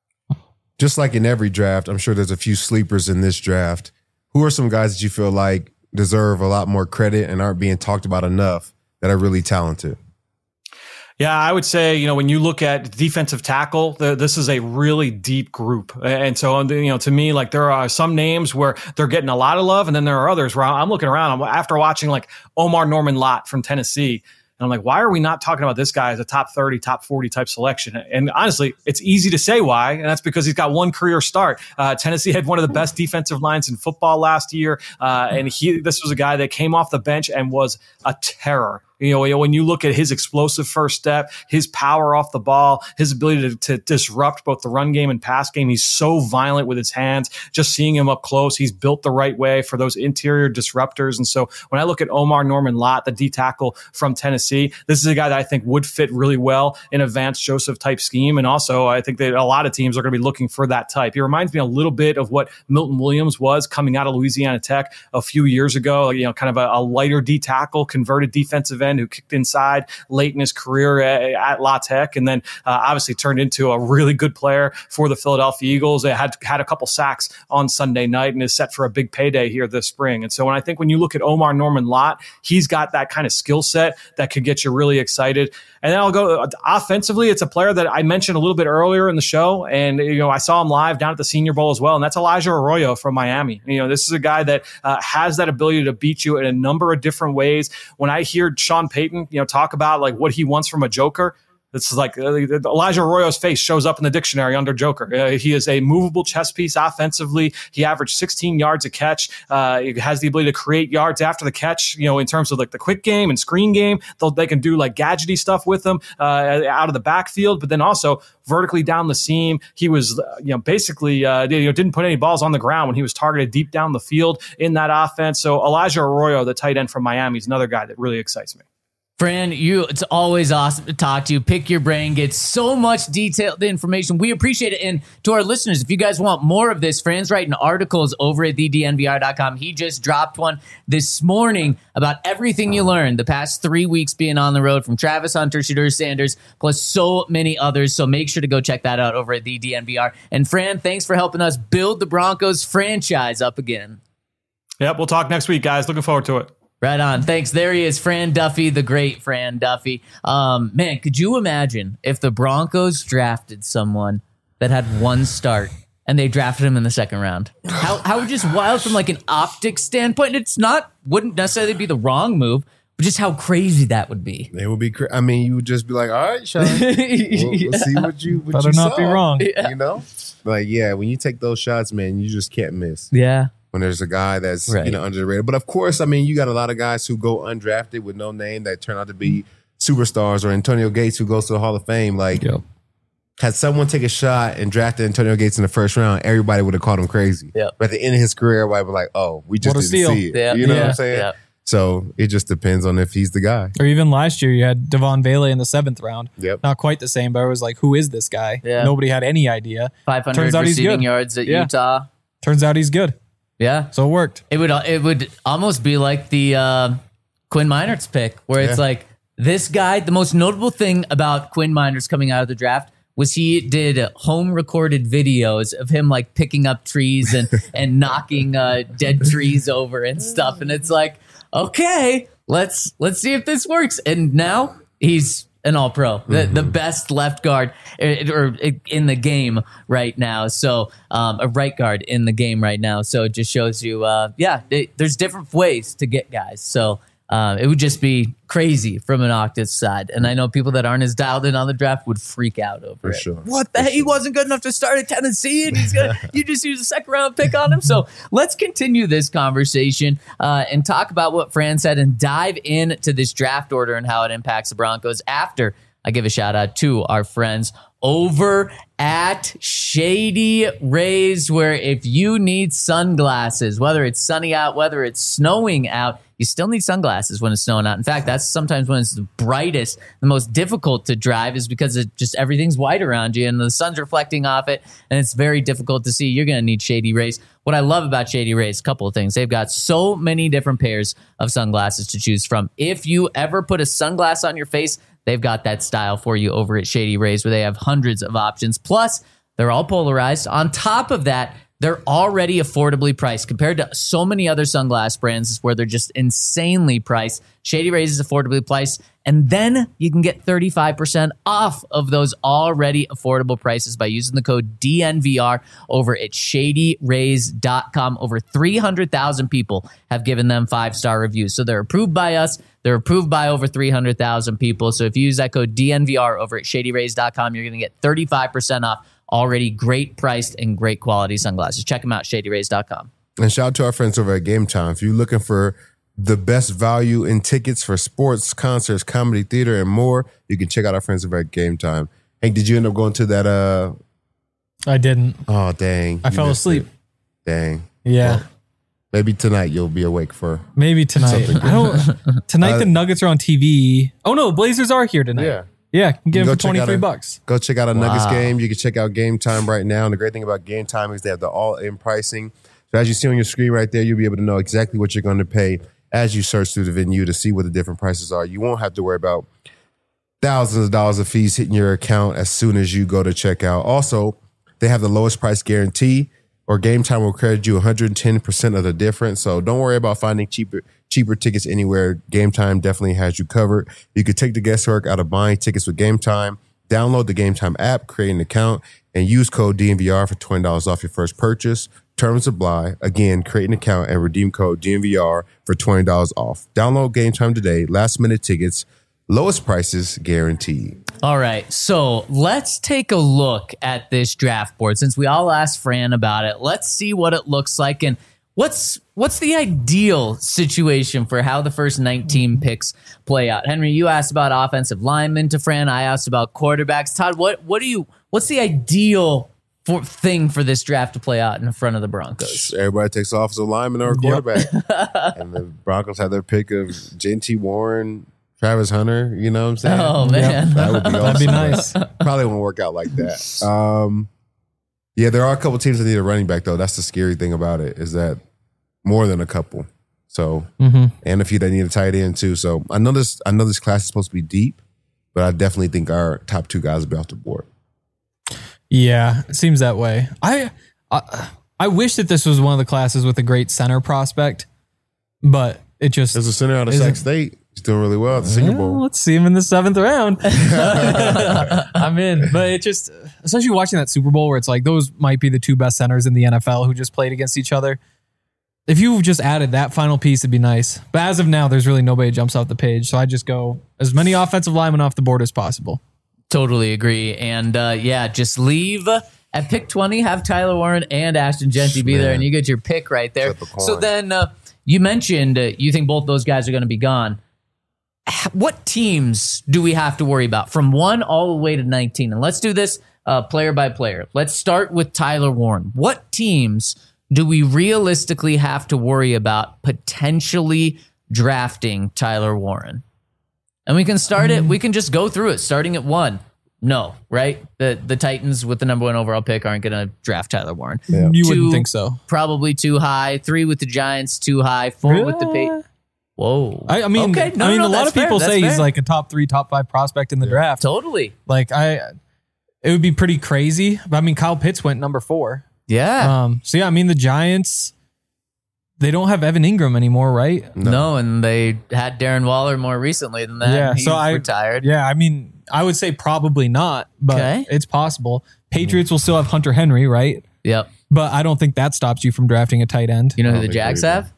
Speaker 2: Just like in every draft, I'm sure there's a few sleepers in this draft. Who are some guys that you feel like deserve a lot more credit and aren't being talked about enough that are really talented?
Speaker 4: Yeah, I would say, you know, when you look at defensive tackle, the, this is a really deep group. And so, you know, to me, like there are some names where they're getting a lot of love. And then there are others where I'm looking around I'm, after watching like Omar Norman Lott from Tennessee. And I'm like, why are we not talking about this guy as a top thirty, top forty type selection? And honestly, it's easy to say why. And that's because he's got one career start. Uh, Tennessee had one of the best defensive lines in football last year. Uh, and he, this was a guy that came off the bench and was a terror. You know, when you look at his explosive first step, his power off the ball, his ability to, to disrupt both the run game and pass game, he's so violent with his hands. Just seeing him up close, he's built the right way for those interior disruptors. And so when I look at Omar Norman Lott, the D tackle from Tennessee, this is a guy that I think would fit really well in a Vance Joseph type scheme. And also, I think that a lot of teams are going to be looking for that type. He reminds me a little bit of what Milton Williams was coming out of Louisiana Tech a few years ago. You know, kind of a, a lighter D tackle, converted defensive end who kicked inside late in his career at, at La Tech, and then uh, obviously turned into a really good player for the Philadelphia Eagles. It had had a couple sacks on Sunday night and is set for a big payday here this spring. And so when I think when you look at Omar Norman Lott, he's got that kind of skill set that could get you really excited. And then I'll go uh, offensively. It's a player that I mentioned a little bit earlier in the show, and you know I saw him live down at the Senior Bowl as well, and that's Elijah Arroyo from Miami. You know, this is a guy that uh, has that ability to beat you in a number of different ways. When I hear Sean Payton, you know, talk about like what he wants from a joker, it's like uh, Elijah Arroyo's face shows up in the dictionary under Joker. Uh, he is a movable chess piece offensively. He averaged sixteen yards a catch. Uh, he has the ability to create yards after the catch, you know, in terms of like the quick game and screen game. They'll, they can do like gadgety stuff with him uh, out of the backfield, but then also vertically down the seam. He was, uh, you know, basically uh, you know, didn't put any balls on the ground when he was targeted deep down the field in that offense. So Elijah Arroyo, the tight end from Miami, is another guy that really excites me.
Speaker 1: Fran, you, it's always awesome to talk to you. Pick your brain, get so much detailed information. We appreciate it. And to our listeners, if you guys want more of this, Fran's writing articles over at the D N V R dot com. He just dropped one this morning about everything you learned the past three weeks being on the road from Travis Hunter, Shedeur Sanders, plus so many others. So make sure to go check that out over at the D N V R. And Fran, thanks for helping us build the Broncos franchise up again.
Speaker 4: Yep, we'll talk next week, guys. Looking forward to it.
Speaker 1: Right on. Thanks. There he is, Fran Duffy, the great Fran Duffy. Um, man, could you imagine if the Broncos drafted someone that had one start and they drafted him in the second round? How how just wild from like an optics standpoint. It's not, wouldn't necessarily be the wrong move, but just how crazy that would be.
Speaker 2: It would be. Cra- I mean, you would just be like, "All right, Sean, we'll, we'll see what you what
Speaker 3: Better
Speaker 2: you
Speaker 3: not
Speaker 2: saw."
Speaker 3: be wrong.
Speaker 1: Yeah.
Speaker 2: You know, like yeah, when you take those shots, man, you just can't miss.
Speaker 1: Yeah.
Speaker 2: When there's a guy that's
Speaker 1: Right.
Speaker 2: you know under the radar. But of course, I mean, you got a lot of guys who go undrafted with no name that turn out to be superstars, or Antonio Gates who goes to the Hall of Fame. Like,
Speaker 3: Yep.
Speaker 2: had someone take a shot and drafted Antonio Gates in the first round, everybody would have called him crazy.
Speaker 1: Yep.
Speaker 2: But at the end of his career, everybody was like, "Oh, we just
Speaker 3: What a
Speaker 2: didn't
Speaker 3: steal."
Speaker 2: see it."
Speaker 1: Yeah.
Speaker 2: You know
Speaker 1: Yeah.
Speaker 2: what I'm saying?
Speaker 1: Yeah.
Speaker 2: So it just depends on if he's the guy.
Speaker 3: Or even last year, you had Devon Bailey in the seventh round.
Speaker 2: Yep.
Speaker 3: Not quite the same, but it was like, who is this guy?
Speaker 1: Yeah.
Speaker 3: Nobody had any idea.
Speaker 1: five hundred
Speaker 3: Turns out he's
Speaker 1: receiving
Speaker 3: good.
Speaker 1: yards at
Speaker 3: Yeah.
Speaker 1: Utah.
Speaker 3: Turns out he's good.
Speaker 1: Yeah.
Speaker 3: So it worked.
Speaker 1: It would it would almost be like the uh, Quinn Meinerz pick, where it's
Speaker 2: Yeah.
Speaker 1: like this guy. The most notable thing about Quinn Meinerz coming out of the draft was he did home recorded videos of him like picking up trees and and knocking uh, dead trees over and stuff. And it's like, okay, let's let's see if this works. And now he's an all pro, the,
Speaker 2: Mm-hmm.
Speaker 1: the best left guard uh, or in the game right now. So um, a right guard in the game right now. So it just shows you, uh, yeah, it, there's different ways to get guys. So um, it would just be crazy from an Octus side. And I know people that aren't as dialed in on the draft would freak out over
Speaker 2: For
Speaker 1: it.
Speaker 2: sure.
Speaker 1: What the heck? He wasn't good enough to start at Tennessee, and he's gonna you just use a second round pick on him. So let's continue this conversation uh, and talk about what Fran said and dive into this draft order and how it impacts the Broncos after I give a shout out to our friends over at Shady Rays, where if you need sunglasses, whether it's sunny out, whether it's snowing out, you still need sunglasses when it's snowing out. In fact, that's sometimes when it's the brightest, the most difficult to drive is because it just everything's white around you and the sun's reflecting off it and it's very difficult to see. You're going to need Shady Rays. What I love about Shady Rays, a couple of things. They've got so many different pairs of sunglasses to choose from. If you ever put a sunglass on your face, they've got that style for you over at Shady Rays, where they have hundreds of options. Plus, they're all polarized. On top of that, they're already affordably priced compared to so many other sunglass brands where they're just insanely priced. Shady Rays is affordably priced. And then you can get thirty-five percent off of those already affordable prices by using the code D N V R over at shady rays dot com. Over three hundred thousand people have given them five-star reviews. So they're approved by us. They're approved by over three hundred thousand people. So if you use that code D N V R over at shady rays dot com, you're going to get thirty-five percent off already great priced and great quality sunglasses. Check them out, shady rays dot com.
Speaker 2: And shout out to our friends over at Game Time. If you're looking for the best value in tickets for sports, concerts, comedy, theater, and more, you can check out our friends over at Game Time. Hank, did you end up going to that? Uh,
Speaker 3: I didn't.
Speaker 2: oh, dang.
Speaker 3: I
Speaker 2: You
Speaker 3: fell
Speaker 2: missed
Speaker 3: asleep.
Speaker 2: it. Dang.
Speaker 3: Yeah.
Speaker 2: Well, maybe tonight you'll be awake for.
Speaker 3: Maybe tonight.
Speaker 2: Something
Speaker 3: I don't. Tonight
Speaker 2: Uh,
Speaker 3: the Nuggets are on T V. Oh no, Blazers are here tonight.
Speaker 2: Yeah.
Speaker 3: Yeah, can get
Speaker 2: You
Speaker 3: them
Speaker 2: go
Speaker 3: for
Speaker 2: check
Speaker 3: twenty
Speaker 2: out
Speaker 3: three
Speaker 2: a-
Speaker 3: bucks.
Speaker 2: Go check out a Nuggets
Speaker 1: Wow.
Speaker 2: game. You can check out Game Time right now. And the great thing about Game Time is they have the all-in pricing. So as you see on your screen right there, you'll be able to know exactly what you're going to pay as you search through the venue to see what the different prices are. You won't have to worry about thousands of dollars of fees hitting your account as soon as you go to checkout. Also, they have the lowest price guarantee, or Game Time will credit you one hundred ten percent of the difference. So don't worry about finding cheaper cheaper tickets anywhere. Game Time definitely has you covered. You could take the guesswork out of buying tickets with Game Time. Download the Game Time app, create an account, and use code D N V R for twenty dollars off your first purchase. Terms apply. Again, create an account and redeem code D N V R for twenty dollars off. Download Game Time today. Last minute tickets. Lowest prices guaranteed.
Speaker 1: All right, so let's take a look at this draft board. Since we all asked Fran about it, let's see what it looks like and what's what's the ideal situation for how the first nineteen picks play out. Henry, you asked about offensive linemen to Fran. I asked about quarterbacks. Todd, what what do you what's the ideal for, thing for this draft to play out in front of the Broncos?
Speaker 2: Everybody takes offensive lineman or a quarterback, yep. And the Broncos have their pick of J T Warren, Travis Hunter, you know what I'm saying?
Speaker 1: Oh, man.
Speaker 2: Yep. That would be awesome.
Speaker 3: That'd be nice.
Speaker 2: Probably won't work out like that. Um, yeah, there are a couple teams that need a running back, though. That's the scary thing about it, is that more than a couple. So, mm-hmm. and a few that need a tight end, too. So I know this I know this class is supposed to be deep, but I definitely think our top two guys will be off the board.
Speaker 3: Yeah, it seems that way. I, I I wish that this was one of the classes with a great center prospect, but it just...
Speaker 2: There's a center out of Sac State. He's doing really well at the Senior Bowl.
Speaker 3: Well, let's see him in the seventh round. I'm in. But it just, especially watching that Super Bowl where it's like those might be the two best centers in the N F L who just played against each other. If you just added that final piece, it'd be nice. But as of now, there's really nobody that jumps off the page. So I just go as many offensive linemen off the board as possible.
Speaker 1: Totally agree. And uh, yeah, just leave at pick twenty, have Tyler Warren and Ashton Genty be there, and you get your pick right there. So then uh, you mentioned uh, you think both those guys are going to be gone. What teams do we have to worry about from one all the way to nineteen? And let's do this uh, player by player. Let's start with Tyler Warren. What teams do we realistically have to worry about potentially drafting Tyler Warren? And we can start it. We can just go through it, starting at one. No, right? The the Titans with the number one overall pick aren't going to draft Tyler Warren.
Speaker 3: Yeah. You
Speaker 1: Two,
Speaker 3: wouldn't think so.
Speaker 1: Probably too high. Three with the Giants, too high. Four
Speaker 3: Really?
Speaker 1: with the Patriots. Whoa.
Speaker 3: I, I mean,
Speaker 1: okay. no,
Speaker 3: I mean,
Speaker 1: no,
Speaker 3: a lot
Speaker 1: that's
Speaker 3: of people
Speaker 1: fair,
Speaker 3: say
Speaker 1: that's
Speaker 3: he's
Speaker 1: fair.
Speaker 3: like a top three, top five prospect in the draft.
Speaker 1: Totally.
Speaker 3: Like I, it would be pretty crazy. But I mean, Kyle Pitts went number four.
Speaker 1: Yeah.
Speaker 3: Um. So yeah, I mean, the Giants, they don't have Evan Ingram anymore, right?
Speaker 1: No. no, and they had Darren Waller more recently than that.
Speaker 3: Yeah.
Speaker 1: He
Speaker 3: So I
Speaker 1: retired.
Speaker 3: Yeah. I mean, I would say probably not, but
Speaker 1: Okay.
Speaker 3: it's possible. Patriots will still have Hunter Henry, right?
Speaker 1: Yep.
Speaker 3: But I don't think that stops you from drafting a tight end.
Speaker 1: You know who
Speaker 2: Oh,
Speaker 1: the
Speaker 2: they
Speaker 1: Jags
Speaker 2: do.
Speaker 1: have?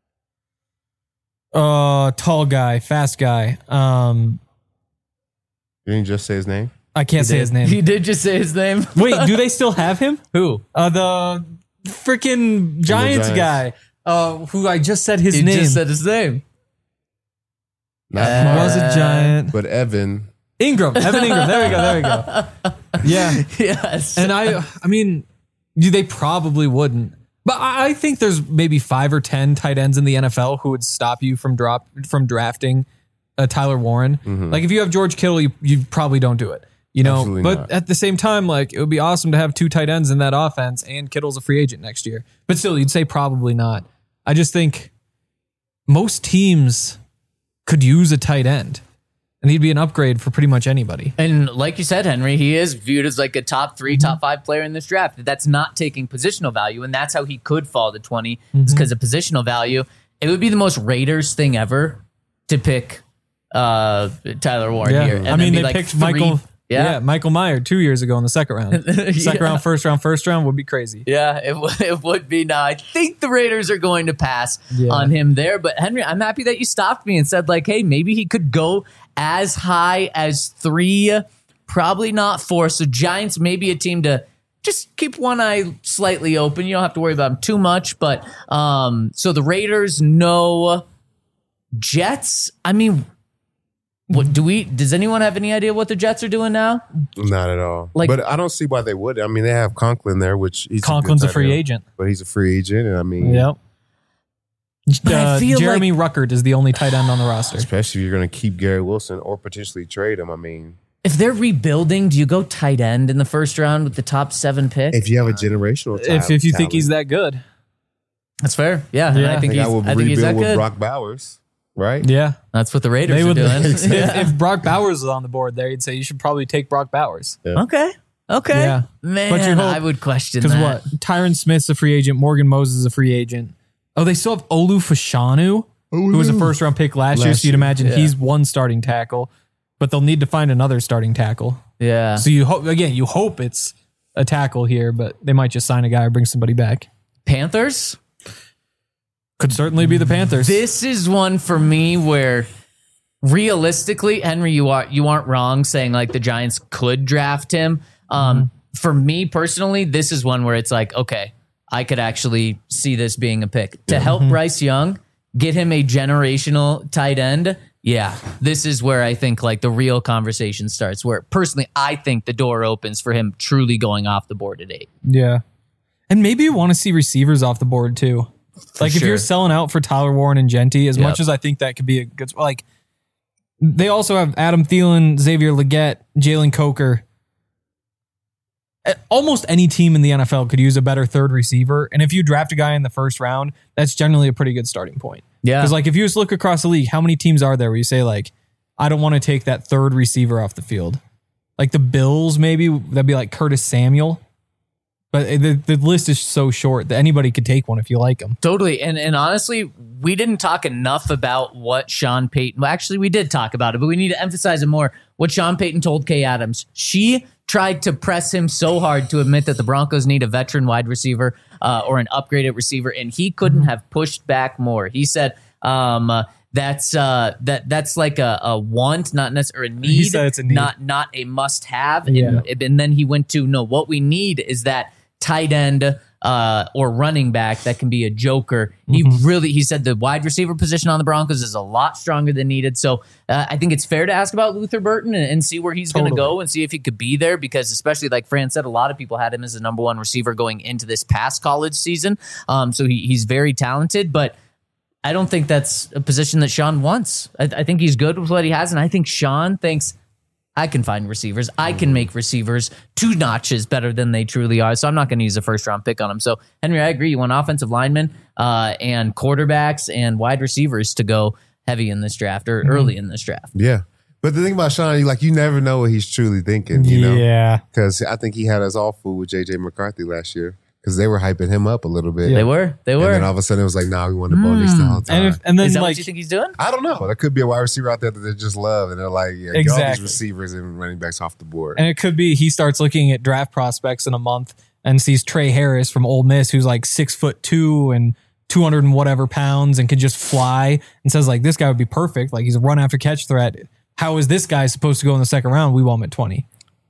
Speaker 3: Uh, tall guy, fast guy. Um,
Speaker 2: You didn't just say his name?
Speaker 3: I can't say his name.
Speaker 1: He did just say his name.
Speaker 3: Wait, do they still have him?
Speaker 1: Who?
Speaker 3: Uh, the freaking Giants,
Speaker 2: Giants.
Speaker 3: guy. Uh, who I just said his
Speaker 1: He
Speaker 3: name.
Speaker 1: just said his name.
Speaker 2: Not
Speaker 1: Uh,
Speaker 2: Mark,
Speaker 3: was a Giant.
Speaker 2: but Evan.
Speaker 3: Ingram. Evan Ingram. There we go. There we go. Yeah.
Speaker 1: Yes.
Speaker 3: And I, I mean, they probably wouldn't. But I I think there's maybe five or ten tight ends in the N F L who would stop you from drop from drafting uh, Tyler Warren.
Speaker 2: Mm-hmm.
Speaker 3: Like if you have George Kittle, you, you probably don't do it. You know,
Speaker 2: Absolutely
Speaker 3: but
Speaker 2: not.
Speaker 3: at the same time, like it would be awesome to have two tight ends in that offense, and Kittle's a free agent next year. But still, you'd say probably not. I just think most teams could use a tight end, and he'd be an upgrade for pretty much anybody.
Speaker 1: And like you said, Henry, he is viewed as like a top three,
Speaker 3: Mm-hmm.
Speaker 1: top five player in this draft. That's not taking positional value, and that's how he could fall to twenty.
Speaker 3: Mm-hmm.
Speaker 1: It's because of positional value. It would be the most Raiders thing ever to pick uh, Tyler Warren
Speaker 3: Yeah,
Speaker 1: here. And
Speaker 3: I
Speaker 1: then
Speaker 3: mean
Speaker 1: be
Speaker 3: they
Speaker 1: like
Speaker 3: picked
Speaker 1: three-
Speaker 3: Michael.
Speaker 1: Yeah.
Speaker 3: Yeah, Michael Meyer two years ago in the second round. Second
Speaker 1: Yeah.
Speaker 3: round, first round, first round would be crazy.
Speaker 1: Yeah, it, w- it would be. Now, I think the Raiders are going to pass
Speaker 3: Yeah.
Speaker 1: on him there. But Henry, I'm happy that you stopped me and said, like, hey, maybe he could go as high as three, probably not four. So Giants may be a team to just keep one eye slightly open. You don't have to worry about them too much. But um, so the Raiders, no. Jets, I mean, what do we? Does anyone have any idea what the Jets are doing now?
Speaker 2: Not at all.
Speaker 1: Like-
Speaker 2: but I don't see why they would. I mean, they have Conklin there, which he's
Speaker 3: Conklin's a,
Speaker 2: good
Speaker 3: free
Speaker 2: tight end,
Speaker 3: agent.
Speaker 2: but he's a free agent, and I mean,
Speaker 3: Yep.
Speaker 1: But I
Speaker 3: Uh,
Speaker 1: feel
Speaker 3: Jeremy Ruckert is the only tight end on the roster.
Speaker 2: especially if you're going to keep Gary Wilson or potentially trade him. I mean,
Speaker 1: If they're rebuilding, do you go tight end in the first round with the top seven pick?
Speaker 2: if you have a generational,
Speaker 3: If if you think he's that good,
Speaker 1: That's fair. Yeah, and
Speaker 3: Yeah.
Speaker 1: I
Speaker 2: I
Speaker 1: think
Speaker 2: think
Speaker 1: he's.
Speaker 2: I would
Speaker 1: I think he's that
Speaker 2: rebuild with
Speaker 1: good.
Speaker 2: Brock Bowers, right?
Speaker 3: Yeah.
Speaker 1: That's what the Raiders
Speaker 3: They
Speaker 1: are
Speaker 3: would,
Speaker 1: doing.
Speaker 3: if,
Speaker 1: Yeah.
Speaker 3: if Brock Bowers was on the board there, you'd say you should probably take Brock Bowers.
Speaker 1: Okay. Okay.
Speaker 3: Yeah.
Speaker 1: Man,
Speaker 3: But you hope-
Speaker 1: I would question
Speaker 3: Because
Speaker 1: that.
Speaker 3: what? Tyron Smith's a free agent. Morgan Moses is a free agent. Oh, they still have Olu Fashanu, who was a first round pick last, year.
Speaker 2: Last
Speaker 3: So you'd
Speaker 2: year,
Speaker 3: imagine
Speaker 1: yeah.
Speaker 3: he's one starting tackle, but they'll need to find another starting tackle.
Speaker 1: Yeah.
Speaker 3: So you hope, again, you hope it's a tackle here, but they might just sign a guy or bring somebody back.
Speaker 1: Panthers?
Speaker 3: Could certainly be the Panthers.
Speaker 1: This is one for me where realistically, Henry, you are you aren't wrong saying like the Giants could draft him. Um,
Speaker 3: Mm-hmm.
Speaker 1: For me personally, this is one where it's like, okay, I could actually see this being a pick to help
Speaker 3: Mm-hmm.
Speaker 1: Bryce Young, get him a generational tight end. Yeah, this is where I think like the real conversation starts. Where personally, I think the door opens for him truly going off the board at eight.
Speaker 3: Yeah. And maybe you want to see receivers off the board too. Like if
Speaker 1: sure.
Speaker 3: you're selling out for Tyler Warren and Genty, as
Speaker 1: Yep.
Speaker 3: much as I think that could be a good, like they also have Adam Thielen, Xavier Legette, Jalen Coker. Uh, Almost any team in the N F L could use a better third receiver. And if you draft a guy in the first round, that's generally a pretty good starting point.
Speaker 1: Yeah.
Speaker 3: Because like if you just look across the league, how many teams are there where you say like, I don't want to take that third receiver off the field? Like the Bills, maybe that'd be like Curtis Samuel. But the, the list is so short that anybody could take one if you like them.
Speaker 1: Totally. And and honestly, we didn't talk enough about what Sean Payton, well, actually, we did talk about it, but we need to emphasize it more. What Sean Payton told Kay Adams. She tried to press him so hard to admit that the Broncos need a veteran wide receiver uh, or an upgraded receiver, and he couldn't have pushed back more. He said, um, uh, that's uh, that that's like a, a want, not necessarily a need,
Speaker 3: He said it's a need.
Speaker 1: not not a must have.
Speaker 3: Yeah.
Speaker 1: And, and then he went to, no, what we need is that tight end uh, or running back that can be a joker. He
Speaker 3: Mm-hmm.
Speaker 1: really, he said the wide receiver position on the Broncos is a lot stronger than needed. So uh, I think it's fair to ask about Luther Burton and, and see where he's going to
Speaker 3: Totally.
Speaker 1: go and see if he could be there, because especially like Fran said, a lot of people had him as the number one receiver going into this past college season. Um, so he, he's very talented, but I don't think that's a position that Sean wants. I, I think he's good with what he has. And I think Sean thinks, I can find receivers. I can make receivers two notches better than they truly are. So I'm not going to use a first round pick on them. So Henry, I agree. You want offensive linemen uh, and quarterbacks and wide receivers to go heavy in this draft or early in this draft.
Speaker 2: Yeah. But the thing about Sean, like you never know what he's truly thinking, you know?
Speaker 3: Yeah.
Speaker 2: Because I think he had us all fooled with J J McCarthy last year because they were hyping him up a little bit.
Speaker 1: They were. They
Speaker 2: And
Speaker 1: were.
Speaker 2: then all of a sudden it was like, nah, we want to Bo Nix the whole time.
Speaker 3: And if, and then
Speaker 1: Is that
Speaker 3: like
Speaker 1: what you think he's doing?
Speaker 2: I don't know. There could be a wide receiver out there that they just love, and they're like, yeah, get all these
Speaker 3: Exactly.
Speaker 2: receivers and running backs off the board.
Speaker 3: and it could be he starts looking at draft prospects in a month and sees Trey Harris from Ole Miss, who's like six foot two and two hundred and whatever pounds and can just fly, and says like, this guy would be perfect. Like he's a run after catch threat. How is this guy supposed to go in the second round? We want him at twenty.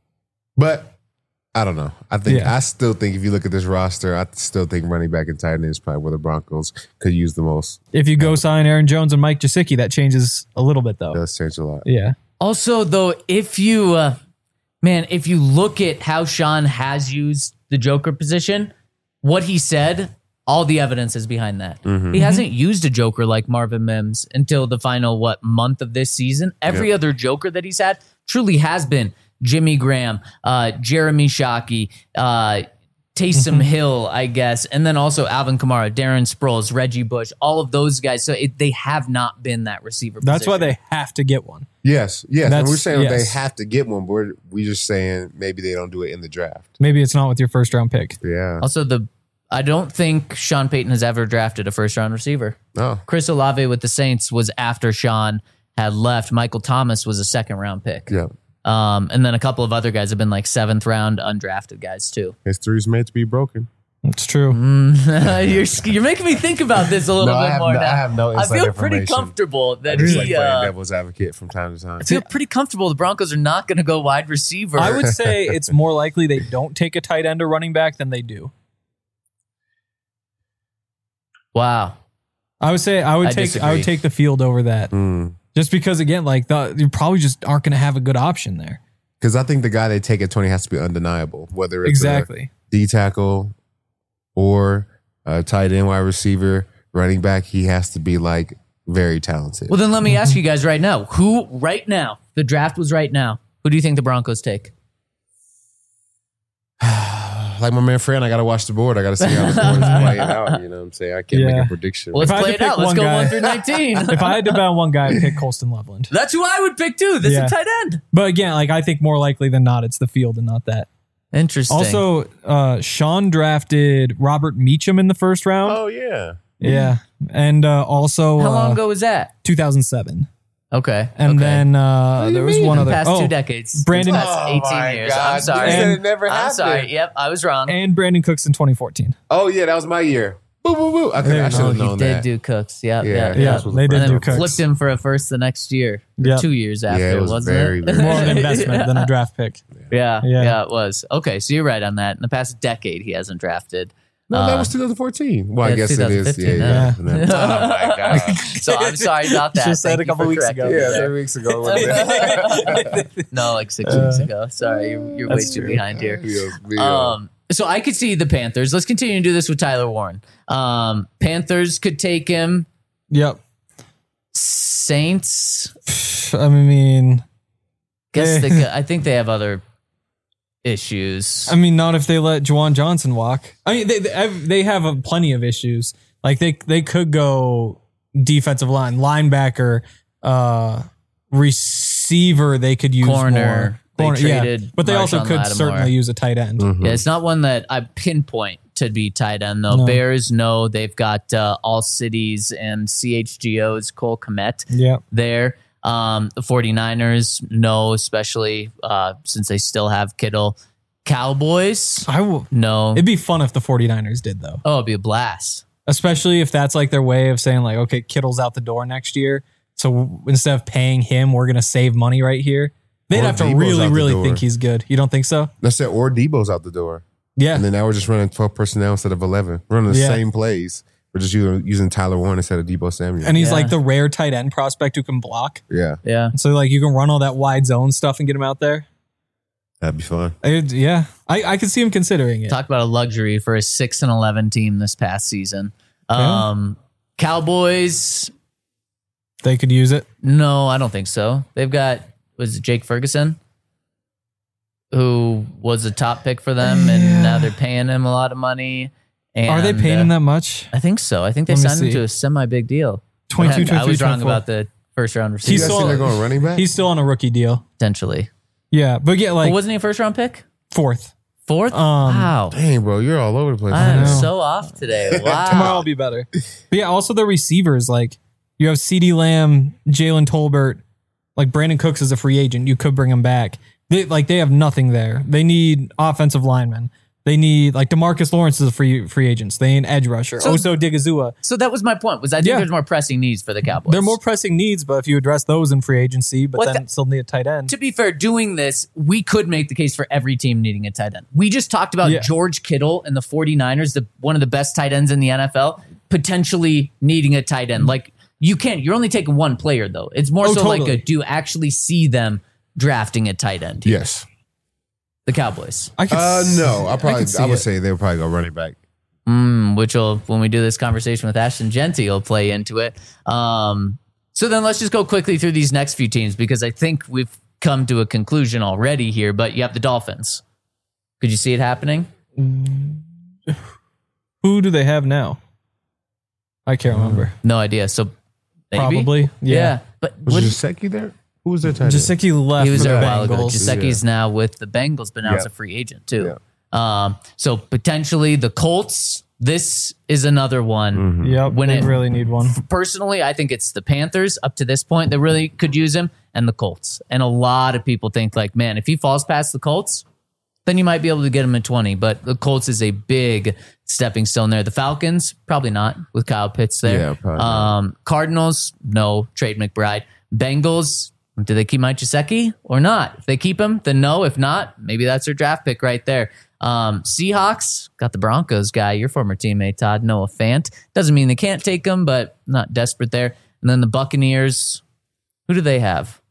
Speaker 2: But I don't know. I think
Speaker 3: Yeah.
Speaker 2: I still think if you look at this roster, I still think running back and tight end is probably where the Broncos could use the most.
Speaker 3: If you go sign Aaron Jones and Mike Gesicki, that changes a little bit though.
Speaker 2: It does change a lot.
Speaker 3: Yeah.
Speaker 1: Also, though, if you, uh, man, if you look at how Sean has used the Joker position, what he said, all the evidence is behind that. He hasn't used a Joker like Marvin Mims until the final, what, month of this season. Every
Speaker 2: Yep.
Speaker 1: other Joker that he's had truly has been Jimmy Graham, uh, Jeremy Shockey, uh, Taysom Hill, I guess, and then also Alvin Kamara, Darren Sproles, Reggie Bush, all of those guys. So it, they have not been that receiver
Speaker 3: That's why
Speaker 1: position.
Speaker 3: they have to get one.
Speaker 2: Yes, yes. And
Speaker 3: That's-
Speaker 2: we're saying
Speaker 3: yes.
Speaker 2: they have to get one, but we're, we're just saying maybe they don't do it in the draft.
Speaker 3: Maybe it's not with your first round pick.
Speaker 2: Yeah.
Speaker 1: Also, the I don't think Sean Payton has ever drafted a first round receiver.
Speaker 2: Oh,
Speaker 1: Chris Olave with the Saints was after Sean had left. Michael Thomas was a second round pick.
Speaker 2: yeah.
Speaker 1: Um, and then a couple of other guys have been like seventh round undrafted guys too.
Speaker 2: History's made to be broken.
Speaker 3: It's true.
Speaker 1: you're you're making me think about this a little
Speaker 2: No, I
Speaker 1: bit
Speaker 2: have
Speaker 1: more
Speaker 2: no-
Speaker 1: now.
Speaker 2: I have no
Speaker 1: I
Speaker 2: inside
Speaker 1: feel pretty
Speaker 2: information.
Speaker 1: comfortable that
Speaker 2: Just
Speaker 1: he.
Speaker 2: like playing
Speaker 1: uh,
Speaker 2: devil's advocate from time to time.
Speaker 1: I feel pretty comfortable the Broncos are not going to go wide receiver.
Speaker 3: I would say it's more likely they don't take a tight end or running back than they do.
Speaker 1: Wow.
Speaker 3: I would say I would
Speaker 1: I
Speaker 3: take I
Speaker 1: disagree.
Speaker 3: would take the field over that.
Speaker 2: Mm.
Speaker 3: Just because again, like the, you probably just aren't going to have a good option there.
Speaker 2: Because I think the guy they take at twenty has to be undeniable, whether it's
Speaker 3: Exactly.
Speaker 2: a D tackle or a tight end, wide receiver, running back. He has to be like very talented.
Speaker 1: Well, then let me ask you guys right now: who right now? The draft was right now. Who do you think the Broncos take?
Speaker 2: like my man Fran, I got to watch the board. I got to see how the board is playing out. You know what I'm saying? I can't
Speaker 3: Yeah.
Speaker 2: make a prediction.
Speaker 1: Well, let's
Speaker 3: If I had
Speaker 1: play
Speaker 3: to
Speaker 1: it
Speaker 3: pick
Speaker 1: out. Let's
Speaker 3: one
Speaker 1: go
Speaker 3: guy-
Speaker 1: one through nineteen.
Speaker 3: If I had to bet on one guy, I'd pick Colston Loveland.
Speaker 1: That's who I would pick too. This
Speaker 3: Yeah.
Speaker 1: is a tight end.
Speaker 3: But again, like I think more likely than not, it's the field and not that.
Speaker 1: Interesting.
Speaker 3: Also, uh, Sean drafted Robert Meacham in the first round.
Speaker 2: oh, yeah.
Speaker 3: Yeah. And uh, also
Speaker 1: how long
Speaker 3: uh,
Speaker 1: ago was that?
Speaker 3: two thousand seven.
Speaker 1: Okay.
Speaker 3: And
Speaker 1: okay.
Speaker 3: then uh,
Speaker 2: do
Speaker 3: there
Speaker 2: you
Speaker 3: was
Speaker 2: mean?
Speaker 3: one
Speaker 1: In
Speaker 3: other.
Speaker 1: the past
Speaker 3: oh,
Speaker 1: two decades.
Speaker 3: Brandon-
Speaker 1: The past
Speaker 2: Oh
Speaker 1: eighteen
Speaker 2: my
Speaker 1: years.
Speaker 2: God.
Speaker 1: I'm sorry.
Speaker 2: You said
Speaker 3: And-
Speaker 2: it never
Speaker 1: I'm
Speaker 2: happened.
Speaker 1: sorry. Yep, I was wrong.
Speaker 3: and Brandon Cooks in twenty fourteen.
Speaker 2: Oh, yeah, that was my year. Boo, boo, boo. I, could,
Speaker 3: There
Speaker 2: I
Speaker 3: you
Speaker 2: should
Speaker 3: go.
Speaker 1: Oh,
Speaker 2: have
Speaker 1: he
Speaker 2: known
Speaker 1: did
Speaker 2: that.
Speaker 1: do Cooks. Yep,
Speaker 2: Yeah,
Speaker 1: yeah,
Speaker 2: yeah,
Speaker 1: yeah.
Speaker 2: this was
Speaker 3: they
Speaker 2: the
Speaker 3: did
Speaker 1: And
Speaker 2: first
Speaker 3: do
Speaker 1: then
Speaker 2: one.
Speaker 3: Cooks.
Speaker 1: flipped him for a first the next year. Or
Speaker 3: Yep.
Speaker 1: Two years
Speaker 2: Yeah,
Speaker 1: after,
Speaker 2: it was
Speaker 1: wasn't
Speaker 2: very,
Speaker 1: it?
Speaker 2: very-
Speaker 3: More of an investment than a draft pick.
Speaker 1: yeah, yeah,
Speaker 3: Yeah.
Speaker 1: it was. Okay, so you're right on that. In the past decade, he hasn't drafted.
Speaker 2: No, that
Speaker 1: Uh,
Speaker 2: was twenty fourteen. Well, I
Speaker 1: yeah,
Speaker 2: guess it is. Yeah,
Speaker 1: twenty fifteen,
Speaker 2: yeah.
Speaker 3: yeah.
Speaker 2: Oh, my God.
Speaker 1: So I'm sorry about that.
Speaker 3: Just said
Speaker 1: Thank
Speaker 3: a
Speaker 1: you
Speaker 3: couple
Speaker 1: for
Speaker 3: weeks
Speaker 1: correcting
Speaker 3: ago.
Speaker 1: me
Speaker 2: Yeah,
Speaker 1: there.
Speaker 2: three weeks ago. wasn't it?
Speaker 1: No, like six weeks ago. Sorry, you're, you're way
Speaker 3: That's
Speaker 1: too
Speaker 3: true.
Speaker 1: behind here.
Speaker 2: Yeah, yeah.
Speaker 1: Um, so I could see the Panthers. Let's continue to do this with Tyler Warren. Um, Panthers could take him.
Speaker 3: Yep.
Speaker 1: Saints.
Speaker 3: I mean,
Speaker 1: Guess
Speaker 3: Eh.
Speaker 1: they could, I think they have other issues.
Speaker 3: I mean, not if they let Juwan Johnson walk. I mean, they they have, they have a, plenty of issues. Like they they could go defensive line, linebacker, uh, receiver. They could use
Speaker 1: Corner.
Speaker 3: more.
Speaker 1: They traded
Speaker 3: but they also
Speaker 1: Marshawn
Speaker 3: could
Speaker 1: Lattimore.
Speaker 3: certainly use a tight end.
Speaker 2: Mhm.
Speaker 1: Yeah, it's not one that I pinpoint to be tight end though.
Speaker 3: No.
Speaker 1: Bears, no, they've got uh, All Cities and C H G O's Cole Kmet
Speaker 3: Yeah,
Speaker 1: there. Um, the 49ers, no, especially uh, since they still have Kittle. Cowboys,
Speaker 3: I will.
Speaker 1: no.
Speaker 3: It'd be fun if the 49ers did though,
Speaker 1: Oh, it'd be a blast.
Speaker 3: especially if that's like their way of saying like, okay, Kittle's out the door next year. So instead of paying him, we're gonna save money right here. They'd
Speaker 2: Or
Speaker 3: have to
Speaker 2: Debo's
Speaker 3: really,
Speaker 2: out the
Speaker 3: really
Speaker 2: door.
Speaker 3: think he's good. You don't think so?
Speaker 2: That's it. Or Debo's out the door.
Speaker 3: Yeah.
Speaker 2: And then now we're just running twelve personnel instead of eleven. We're running the
Speaker 3: Yeah.
Speaker 2: same plays. We're just using, using Tyler Warren instead of Debo Samuel.
Speaker 3: And he's
Speaker 1: Yeah.
Speaker 3: like the rare tight end prospect who can block.
Speaker 2: yeah,
Speaker 1: Yeah.
Speaker 3: So like you can run all that wide zone stuff and get him out there.
Speaker 2: that'd be fun.
Speaker 3: It- yeah, I, I could see him considering it.
Speaker 1: Talk about a luxury for a six and eleven team this past season. Um, Cowboys,
Speaker 3: They could use it.
Speaker 1: no, I don't think so. They've got was it Jake Ferguson, who was a top pick for them,
Speaker 3: Yeah.
Speaker 1: and now they're paying him a lot of money. And,
Speaker 3: Are they paying
Speaker 1: uh,
Speaker 3: him that much?
Speaker 1: I think so. I think they
Speaker 3: Let me
Speaker 1: signed him
Speaker 3: see.
Speaker 1: to a semi big deal.
Speaker 3: twenty-two,
Speaker 1: I was
Speaker 3: twenty-three,
Speaker 1: wrong
Speaker 3: twenty-four.
Speaker 1: about the first round receiver.
Speaker 2: You
Speaker 3: He's
Speaker 2: guys
Speaker 3: still-
Speaker 2: think they're going running back?
Speaker 3: He's still on a rookie deal.
Speaker 1: potentially.
Speaker 3: Yeah, but yeah, like
Speaker 1: But wasn't he a first round pick?
Speaker 3: fourth.
Speaker 1: Fourth?
Speaker 3: Um,
Speaker 1: wow.
Speaker 2: Dang, bro, you're all over the place.
Speaker 1: I'm
Speaker 3: know.
Speaker 1: so off today. Wow.
Speaker 3: Tomorrow will be better. But yeah, also the receivers, like you have CeeDee Lamb, Jalen Tolbert, like Brandon Cooks is a free agent. You could bring him back. They like they have nothing there. They need offensive linemen. They need like DeMarcus Lawrence is a free free agent. They need an edge rusher.
Speaker 1: So-
Speaker 3: Oso Digizua.
Speaker 1: So that was my point. Was I think
Speaker 3: Yeah.
Speaker 1: there's more pressing needs for the Cowboys.
Speaker 3: They're more pressing needs, but if you address those in free agency, but
Speaker 1: What
Speaker 3: then
Speaker 1: the-
Speaker 3: still need a tight end.
Speaker 1: To be fair, doing this, we could make the case for every team needing a tight end. We just talked about
Speaker 3: Yeah.
Speaker 1: George Kittle and the 49ers, the one of the best tight ends in the N F L, potentially needing a tight end. Like you can't, you're only taking one player though. It's more
Speaker 3: Oh,
Speaker 1: so like
Speaker 3: totally.
Speaker 1: a, do you actually see them drafting a tight end?
Speaker 2: Yes.
Speaker 1: The Cowboys.
Speaker 3: I could
Speaker 2: Uh,
Speaker 3: s-
Speaker 2: no, I probably,
Speaker 3: could see
Speaker 2: I, would
Speaker 3: it.
Speaker 2: say they would probably go running back.
Speaker 1: Mm, which will, when we do this conversation with Ashton Genty, will play into it. Um, so then let's just go quickly through these next few teams because I think we've come to a conclusion already here, but you have the Dolphins. Could you see it happening?
Speaker 3: Who do they have now? I can't remember.
Speaker 1: No idea. So maybe?
Speaker 3: Probably.
Speaker 1: Yeah.
Speaker 3: Yeah.
Speaker 1: But
Speaker 2: Was
Speaker 1: what,
Speaker 2: Gesicki there? Who was their tight end?
Speaker 3: Jasicki left.
Speaker 1: he was
Speaker 3: for
Speaker 1: there a
Speaker 3: the
Speaker 1: while ago.
Speaker 3: Bengals.
Speaker 1: Giuseppe's now with the Bengals, but now
Speaker 2: Yeah.
Speaker 1: it's a free agent too. Um, so potentially the Colts. This is another one.
Speaker 3: Yep.
Speaker 1: When
Speaker 3: they
Speaker 1: it-
Speaker 3: really need one.
Speaker 1: Personally, I think it's the Panthers up to this point that really could use him, and the Colts. And a lot of people think like, man, if he falls past the Colts, then you might be able to get him at twenty. But the Colts is a big stepping stone there. The Falcons, probably not with Kyle Pitts there.
Speaker 2: Yeah, probably not.
Speaker 1: um, Cardinals, no. Trade McBride. Bengals, do they keep Mike Gesicki or not? If they keep him, then no. If not, maybe that's their draft pick right there. Um, Seahawks got the Broncos guy, your former teammate Todd Noah Fant. Doesn't mean they can't take him, but not desperate there. And then the Buccaneers, who do they have?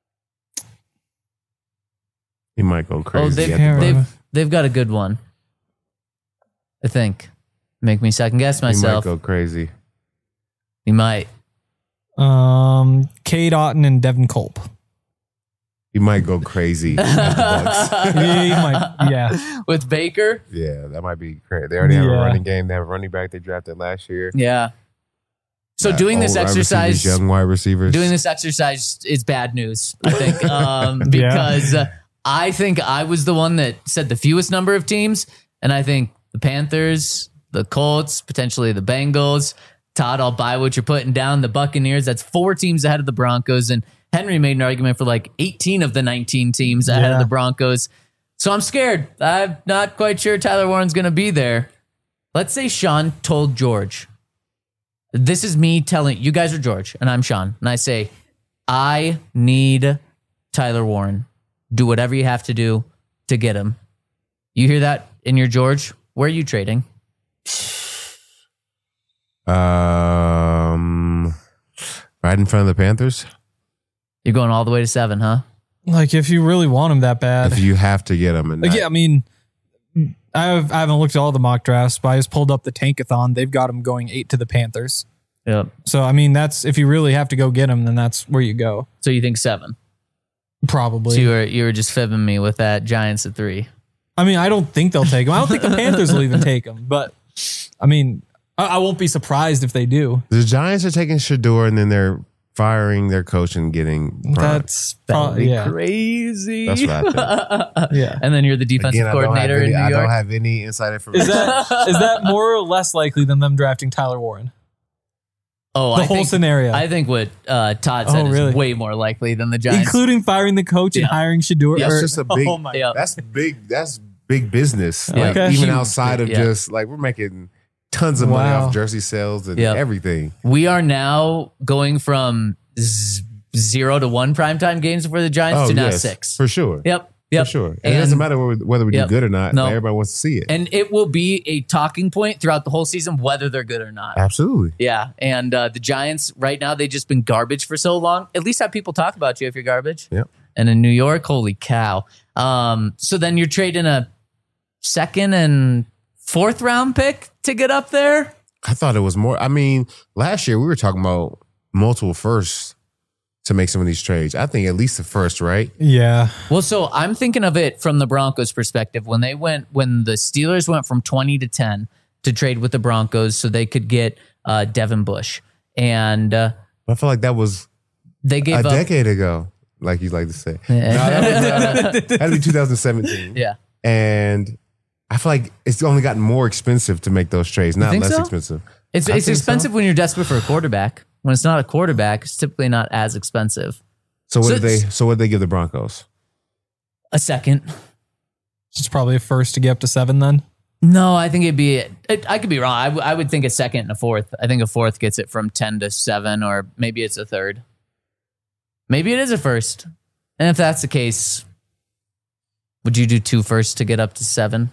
Speaker 2: He might go crazy.
Speaker 1: Oh, they've,
Speaker 2: at the
Speaker 3: Can't
Speaker 2: Bucs.
Speaker 3: remember.
Speaker 1: they've they've got a good one. I think. Make me second guess
Speaker 2: He might
Speaker 1: myself.
Speaker 2: go crazy.
Speaker 1: He might.
Speaker 3: Um, Cade Otton and Devin Culp.
Speaker 2: he might go crazy. at the Bucs.
Speaker 3: He might- yeah.
Speaker 1: with Baker.
Speaker 2: Yeah, that might be crazy. They already have a
Speaker 3: Yeah.
Speaker 2: running game. They have a running back they drafted last year.
Speaker 1: Yeah. So
Speaker 2: Uh,
Speaker 1: doing this
Speaker 2: old wide
Speaker 1: exercise,
Speaker 2: receivers, young wide receivers.
Speaker 1: doing this exercise is bad news, I think, um, because uh, I think I was the one that said the fewest number of teams, and I think the Panthers, the Colts, potentially the Bengals. Todd, I'll buy what you're putting down. The Buccaneers, that's four teams ahead of the Broncos, and Henry made an argument for like eighteen of the nineteen teams ahead
Speaker 3: Yeah.
Speaker 1: of the Broncos. So I'm scared. I'm not quite sure Tyler Warren's going to be there. Let's say Sean told George. This is me telling you guys are George and I'm Sean. And I say, I need Tyler Warren. Do whatever you have to do to get him. You hear that in your George? Where are you trading?
Speaker 2: Um, right in front of the Panthers.
Speaker 1: You're going all the way to seven, huh?
Speaker 3: Like, if you really want him that bad.
Speaker 2: If you have to get them, and
Speaker 3: Like,
Speaker 2: not-
Speaker 3: yeah, I mean, I've, I haven't looked at all the mock drafts, but I just pulled up the Tankathon. They've got him going eight to the Panthers.
Speaker 1: Yep.
Speaker 3: So, I mean, that's if you really have to go get him, then that's where you go.
Speaker 1: So you think seven?
Speaker 3: Probably.
Speaker 1: So you were you were just fibbing me with that Giants at three.
Speaker 3: I mean, I don't think they'll take him. I don't think the Panthers will even take him. But, I mean, I, I won't be surprised if they do.
Speaker 2: the Giants are taking Shador, and then they're firing their coach and getting. Bron.
Speaker 3: That's
Speaker 1: That'd
Speaker 3: probably,
Speaker 1: be
Speaker 3: yeah.
Speaker 1: crazy.
Speaker 2: That's what I think.
Speaker 3: Yeah.
Speaker 1: And then you're the defensive
Speaker 2: Again, I don't have
Speaker 1: coordinator
Speaker 2: any,
Speaker 1: in New
Speaker 2: I
Speaker 1: York.
Speaker 2: don't have any inside information.
Speaker 3: Is that is that more or less likely than them drafting Tyler Warren?
Speaker 1: oh,
Speaker 3: The
Speaker 1: I
Speaker 3: whole
Speaker 1: think,
Speaker 3: scenario.
Speaker 1: I think what uh, Todd said
Speaker 3: Oh, really?
Speaker 1: is way more likely than the Giants.
Speaker 3: Including firing the coach and
Speaker 1: Yeah.
Speaker 3: hiring Shador.
Speaker 1: Yeah.
Speaker 2: That's
Speaker 3: or-
Speaker 2: just a big.
Speaker 3: Oh my
Speaker 1: Yeah.
Speaker 2: That's big. That's big business.
Speaker 1: Yeah.
Speaker 2: Like
Speaker 3: Okay.
Speaker 2: even
Speaker 1: Huge,
Speaker 2: outside of
Speaker 1: yeah.
Speaker 2: just like we're making tons of money
Speaker 3: Wow.
Speaker 2: off jersey sales and
Speaker 1: Yeah.
Speaker 2: everything.
Speaker 1: We are now going from z- zero to one primetime games for the Giants to now
Speaker 2: yes,
Speaker 1: six.
Speaker 2: for sure.
Speaker 1: Yep. Yep.
Speaker 2: For sure. And
Speaker 1: And,
Speaker 2: it doesn't matter whether, whether we
Speaker 1: Yep.
Speaker 2: do good or not.
Speaker 1: No.
Speaker 2: But everybody wants to see it.
Speaker 1: and it will be a talking point throughout the whole season, whether they're good or not.
Speaker 2: Absolutely.
Speaker 1: Yeah. And uh, the Giants right now, they've just been garbage for so long. At least have people talk about you if you're garbage.
Speaker 2: Yep.
Speaker 1: And in New York, holy cow. Um, so then you're trading a second and fourth round pick to get up there.
Speaker 2: I thought it was more. I mean, last year we were talking about multiple firsts to make some of these trades. I think at least the first, right?
Speaker 3: Yeah.
Speaker 1: Well, so I'm thinking of it from the Broncos' perspective. When they went, when the Steelers went from twenty to ten to trade with the Broncos so they could get uh, Devin Bush. And uh,
Speaker 2: I feel like that was
Speaker 1: they gave
Speaker 2: a
Speaker 1: up.
Speaker 2: decade ago, like you like to say. No,
Speaker 1: Yeah.
Speaker 2: that was, uh, that had to be two thousand seventeen.
Speaker 1: Yeah.
Speaker 2: And I feel like it's only gotten more expensive to make those trades, not
Speaker 1: think
Speaker 2: less
Speaker 1: so?
Speaker 2: expensive.
Speaker 1: It's,
Speaker 2: I
Speaker 1: it's
Speaker 2: think
Speaker 1: expensive
Speaker 2: so.
Speaker 1: when you're desperate for a quarterback. When it's not a quarterback, it's typically not as expensive.
Speaker 2: So what
Speaker 1: So
Speaker 2: did they?
Speaker 1: it's-
Speaker 2: So what did they give the Broncos?
Speaker 1: A second.
Speaker 3: It's probably a first to get up to seven then.
Speaker 1: No, I think it'd be, it, I could be wrong. I, w- I would think a second and a fourth. I think a fourth gets it from ten to seven, or maybe it's a third. Maybe it is a first. And if that's the case, would you do two firsts to get up to seven?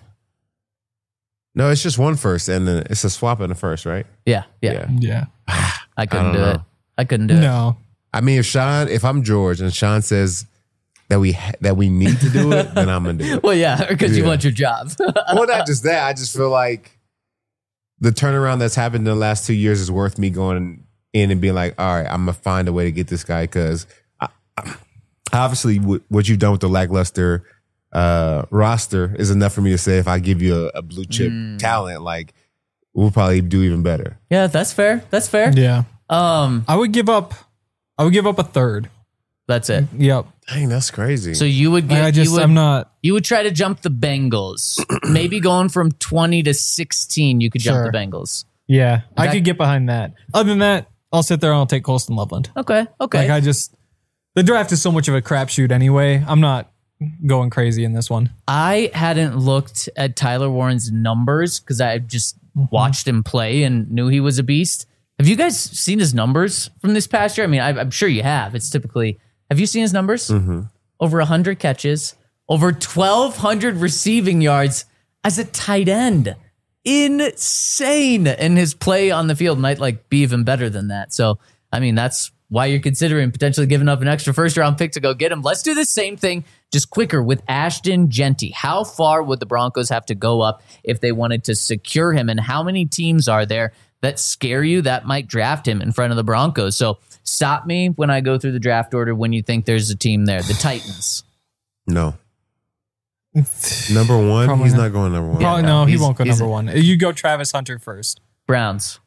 Speaker 2: No, it's just one first, and then it's a swap in the first, right?
Speaker 1: Yeah, yeah.
Speaker 3: Yeah.
Speaker 1: I couldn't
Speaker 2: I
Speaker 1: do
Speaker 2: don't
Speaker 1: it.
Speaker 2: know.
Speaker 1: I couldn't do it.
Speaker 3: No.
Speaker 2: I mean, if Sean, if I'm George, and Sean says that we ha- that we need to do it, then I'm gonna do it.
Speaker 1: Well, yeah, because you
Speaker 2: Yeah.
Speaker 1: want your job.
Speaker 2: Well, not just that. I just feel like the turnaround that's happened in the last two years is worth me going in and being like, all right, I'm gonna find a way to get this guy because obviously what what you've done with the lackluster uh, roster is enough for me to say if I give you a, a blue chip talent, like we'll probably do even better.
Speaker 1: Yeah, that's fair. That's fair.
Speaker 3: Yeah.
Speaker 1: Um,
Speaker 3: I would give up I would give up a third.
Speaker 1: that's it.
Speaker 3: Yep.
Speaker 2: Dang, that's crazy.
Speaker 1: So you would get.
Speaker 3: I just
Speaker 1: you would,
Speaker 3: I'm not
Speaker 1: You would try to jump the Bengals. Maybe going from twenty to sixteen, you could jump
Speaker 3: Sure.
Speaker 1: the Bengals.
Speaker 3: yeah. I
Speaker 1: That-
Speaker 3: could get behind that. Other than that, I'll sit there and I'll take Colston Loveland.
Speaker 1: Okay. Okay.
Speaker 3: Like I just the draft is so much of a crapshoot anyway. I'm not going crazy in this one.
Speaker 1: I hadn't looked at Tyler Warren's numbers because I just watched him play and knew he was a beast. Have you guys seen his numbers from this past year? I mean, I, I'm sure you have. It's typically. Have you seen his numbers? Mm-hmm. Over one hundred catches, over twelve hundred receiving yards as a tight end. Insane. And his play on the field might like be even better than that. So, I mean, that's why you're considering potentially giving up an extra first round pick to go get him. Let's do the same thing, just quicker with Ashton Genty. How far would the Broncos have to go up if they wanted to secure him? And how many teams are there that scare you, that might draft him in front of the Broncos. So stop me when I go through the draft order when you think there's a team there. The Titans.
Speaker 2: No. Number one?
Speaker 3: Probably
Speaker 2: He's
Speaker 3: not.
Speaker 2: not going number one.
Speaker 3: Probably,
Speaker 1: no,
Speaker 3: no, he
Speaker 1: he's-
Speaker 3: won't go
Speaker 1: he's-
Speaker 3: number one. You go Travis Hunter first.
Speaker 1: Browns.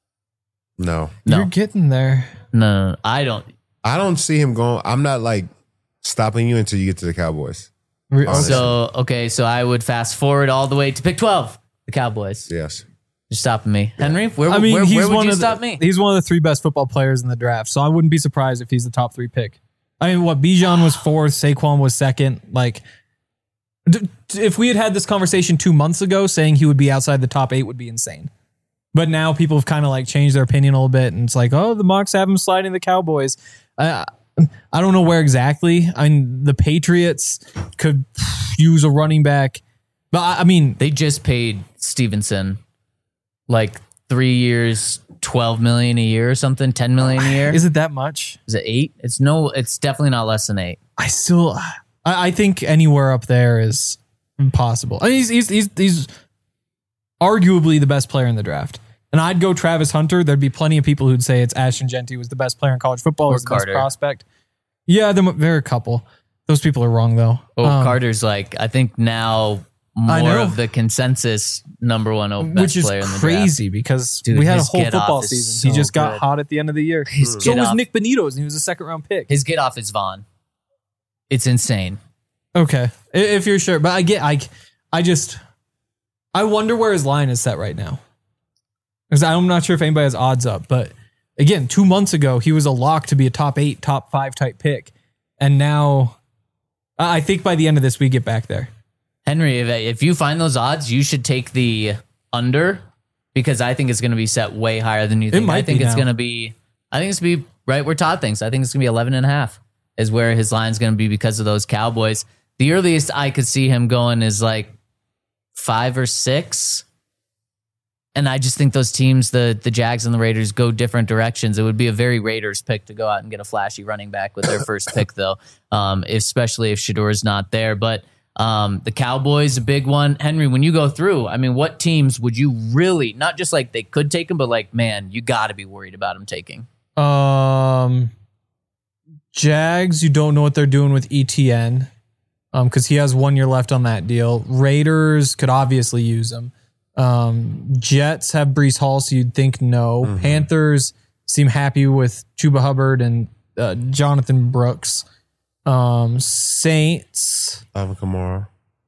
Speaker 2: No.
Speaker 1: No.
Speaker 3: You're getting there.
Speaker 1: No, no, no, I don't.
Speaker 2: I don't see him going. I'm not like stopping you until you get to the Cowboys.
Speaker 3: Re-
Speaker 2: Honestly.
Speaker 1: So, okay, so I would fast forward all the way to pick twelve. The Cowboys.
Speaker 2: Yes.
Speaker 1: You're stopping me. Henry, where,
Speaker 3: I mean,
Speaker 1: where,
Speaker 3: he's
Speaker 1: where would
Speaker 3: one
Speaker 1: you
Speaker 3: of the,
Speaker 1: stop me?
Speaker 3: He's one of the three best football players in the draft, so I wouldn't be surprised if he's the top three pick. I mean, what Bijan was fourth, Saquon was second. Like, d- if we had had this conversation two months ago, saying he would be outside the top eight would be insane. But now people have kind of like changed their opinion a little bit, and it's like, oh, the mocks have him sliding the Cowboys. I, I don't know where exactly. I mean, the Patriots could use a running back, but I, I mean,
Speaker 1: They just paid Stevenson like three years, twelve million a year or something, ten million a year.
Speaker 3: is it that much?
Speaker 1: Is it eight? It's no, it's definitely not less than eight.
Speaker 3: I still, I, I think anywhere up there is impossible. I mean, he's, he's he's he's arguably the best player in the draft, and I'd go Travis Hunter. There'd be plenty of people who'd say it's Ashton Genty was the best player in college football,
Speaker 1: Or
Speaker 3: was the
Speaker 1: Carter.
Speaker 3: best prospect. Yeah, there, there are a couple. Those people are wrong though.
Speaker 1: Oh,
Speaker 3: Um,
Speaker 1: Carter's like, I think now
Speaker 3: I
Speaker 1: more
Speaker 3: know.
Speaker 1: of the consensus number one oh, best
Speaker 3: which is
Speaker 1: player in the
Speaker 3: crazy because
Speaker 1: Dude,
Speaker 3: we had a
Speaker 1: his
Speaker 3: whole
Speaker 1: get off
Speaker 3: football
Speaker 1: is
Speaker 3: season. he
Speaker 1: so
Speaker 3: just got
Speaker 1: good.
Speaker 3: hot at the end of the year.
Speaker 1: His
Speaker 3: So
Speaker 1: get
Speaker 3: was
Speaker 1: off-
Speaker 3: Nick Benito's, and he was a second round pick.
Speaker 1: His get off is Vaughn. It's insane.
Speaker 3: Okay, I- if you're sure, but I get, I, I just, I wonder where his line is set right now. Because I'm not sure if anybody has odds up, but again, two months ago he was a lock to be a top eight, top five type pick, and now, I I think by the end of this we get back there.
Speaker 1: Henry, if, if you find those odds, you should take the under because I think it's going to be set way higher than you think.
Speaker 3: might
Speaker 1: I think
Speaker 3: be
Speaker 1: it's
Speaker 3: now.
Speaker 1: going to be, I think it's going to be right where Todd thinks. I think it's going to be eleven and a half is where his line's going to be because of those Cowboys. The earliest I could see him going is like five or six. And I just think those teams, the the Jags and the Raiders, go different directions. It would be a very Raiders pick to go out and get a flashy running back with their first pick, though, um, especially if Shador's not there. But um, the Cowboys, a big one. Henry, when you go through, I mean, what teams would you really, not just like they could take him, but like, man, you got to be worried about him taking?
Speaker 3: Um, Jags, you don't know what they're doing with E T N, um, because he has one year left on that deal. Raiders could obviously use him. Um, Jets have Breece Hall, so you'd think no.
Speaker 2: Mm-hmm.
Speaker 3: Panthers seem happy with Chuba Hubbard and uh, Jonathan Brooks. Um, Saints,
Speaker 2: Alvin Kamara.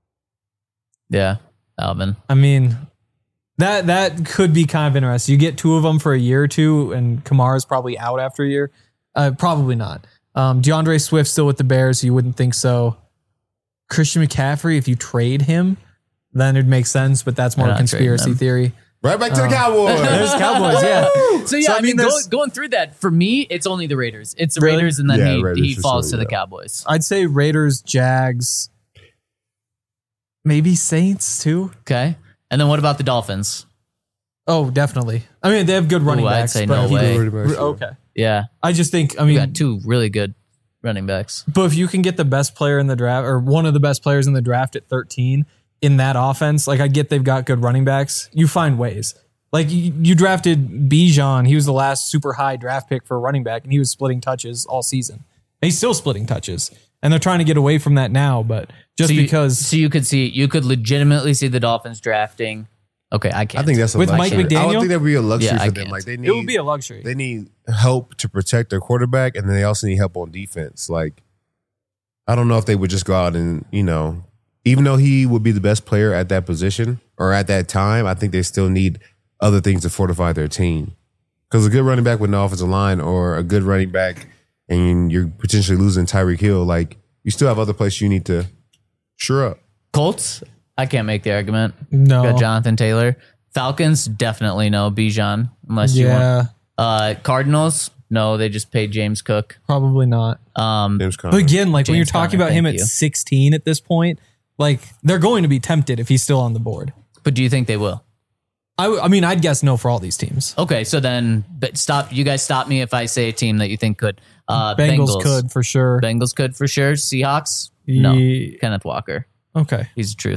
Speaker 1: Yeah, Alvin.
Speaker 3: I mean, that that could be kind of interesting. You get two of them for a year or two, and Kamara's probably out after a year. Uh, probably not. Um, DeAndre Swift still with the Bears, so you wouldn't think so. Christian McCaffrey, if you trade him, then it'd make sense, but that's more
Speaker 1: They're
Speaker 3: a
Speaker 1: not trading
Speaker 3: conspiracy
Speaker 1: them.
Speaker 3: theory.
Speaker 2: Right back to the Cowboys.
Speaker 3: There's Cowboys, yeah.
Speaker 1: So yeah,
Speaker 3: So,
Speaker 1: I,
Speaker 3: I
Speaker 1: mean,
Speaker 3: mean,
Speaker 1: go,
Speaker 3: there's-
Speaker 1: going through that for me, it's only the Raiders. It's the
Speaker 3: Really?
Speaker 1: Raiders, and then
Speaker 2: Yeah,
Speaker 1: he,
Speaker 2: Raiders
Speaker 1: he
Speaker 2: for
Speaker 1: falls
Speaker 2: sure,
Speaker 1: to the
Speaker 2: yeah.
Speaker 1: Cowboys.
Speaker 3: I'd say Raiders, Jags, maybe Saints too.
Speaker 1: Okay, and then what about the Dolphins?
Speaker 3: Oh, definitely. I mean, they have good running
Speaker 1: Ooh, I'd
Speaker 3: backs.
Speaker 1: say
Speaker 3: but
Speaker 1: no
Speaker 3: he-
Speaker 1: way.
Speaker 3: Okay.
Speaker 1: Yeah,
Speaker 3: I just think, I
Speaker 1: we
Speaker 3: mean,
Speaker 1: got two really good running backs.
Speaker 3: but if you can get the best player in the draft or one of the best players in the draft at thirteen in that offense, like I get they've got good running backs. You find ways. Like you, you drafted Bijan. He was the last super high draft pick for a running back, and he was splitting touches all season. And he's still splitting touches. And they're trying to get away from that now, but just
Speaker 1: so you,
Speaker 3: because
Speaker 1: so you could see, you could legitimately see the Dolphins drafting. Okay, I can't.
Speaker 2: I think that's a
Speaker 3: With Mike
Speaker 2: luxury. I
Speaker 3: McDaniel?
Speaker 2: don't think that would be a luxury
Speaker 1: Yeah, I
Speaker 2: for them.
Speaker 1: can't.
Speaker 2: Like they need,
Speaker 3: it would be a luxury.
Speaker 2: they need help to protect their quarterback, and then they also need help on defense. Like I don't know if they would just go out and you know, even though he would be the best player at that position or at that time, I think they still need other things to fortify their team. Because a good running back with no offensive line or a good running back and you're potentially losing Tyreek Hill, like you still have other places you need to sure up.
Speaker 1: Colts. I can't make the argument.
Speaker 3: No.
Speaker 1: Got Jonathan Taylor. Falcons definitely no Bijan unless you want.
Speaker 3: yeah,
Speaker 1: Uh, Cardinals. No, they just paid James Cook.
Speaker 3: probably not.
Speaker 1: Um,
Speaker 2: James Conner.
Speaker 3: But again, like when you're
Speaker 1: James
Speaker 3: talking
Speaker 1: Conner,
Speaker 3: about him
Speaker 1: thank
Speaker 3: at
Speaker 1: you.
Speaker 3: sixteen at this point, like they're going to be tempted if he's still on the board.
Speaker 1: but do you think they will?
Speaker 3: I, w- I mean, I'd guess no for all these teams.
Speaker 1: Okay, so then, but stop. You guys stop me if I say a team that you think could. Uh,
Speaker 3: Bengals,
Speaker 1: Bengals
Speaker 3: could for sure.
Speaker 1: Bengals could for sure. Seahawks. No.
Speaker 3: Ye-
Speaker 1: Kenneth Walker.
Speaker 3: Okay.
Speaker 1: He's the truth.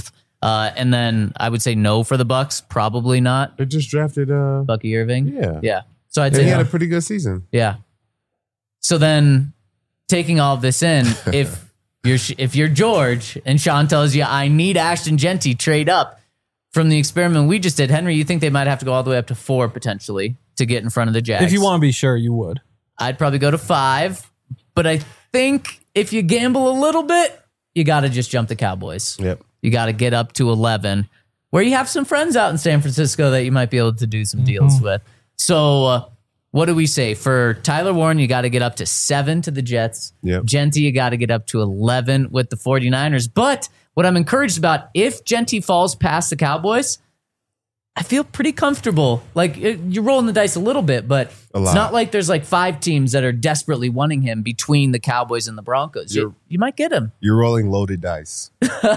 Speaker 1: Uh, and then I would say no for the Bucks. Probably not.
Speaker 2: They just drafted uh,
Speaker 1: Bucky Irving.
Speaker 2: Yeah.
Speaker 1: Yeah. So I'd
Speaker 2: and
Speaker 1: say
Speaker 2: he had
Speaker 1: no.
Speaker 2: a pretty good season.
Speaker 1: Yeah. So then, taking all of this in, if you're if you're George and Sean tells you I need Ashton Genty, trade up from the experiment we just did, Henry, you think they might have to go all the way up to four potentially to get in front of the Jags?
Speaker 3: If you want to be sure, you would.
Speaker 1: I'd probably go to five, but I think if you gamble a little bit, you got to just jump the Cowboys.
Speaker 2: Yep.
Speaker 1: You got to get up to eleven, where you have some friends out in San Francisco that you might be able to do some deals with. So, uh, what do we say? For Tyler Warren, you got to get up to seven to the Jets.
Speaker 2: Yep.
Speaker 1: Genty, you got to get up to eleven with the 49ers. But what I'm encouraged about, if Genty falls past the Cowboys, I feel pretty comfortable. Like, it, you're rolling the dice a little bit, but
Speaker 2: A lot.
Speaker 1: it's not like there's like five teams that are desperately wanting him between the Cowboys and the Broncos. You,
Speaker 2: You're-
Speaker 1: you might get him.
Speaker 2: You're rolling loaded dice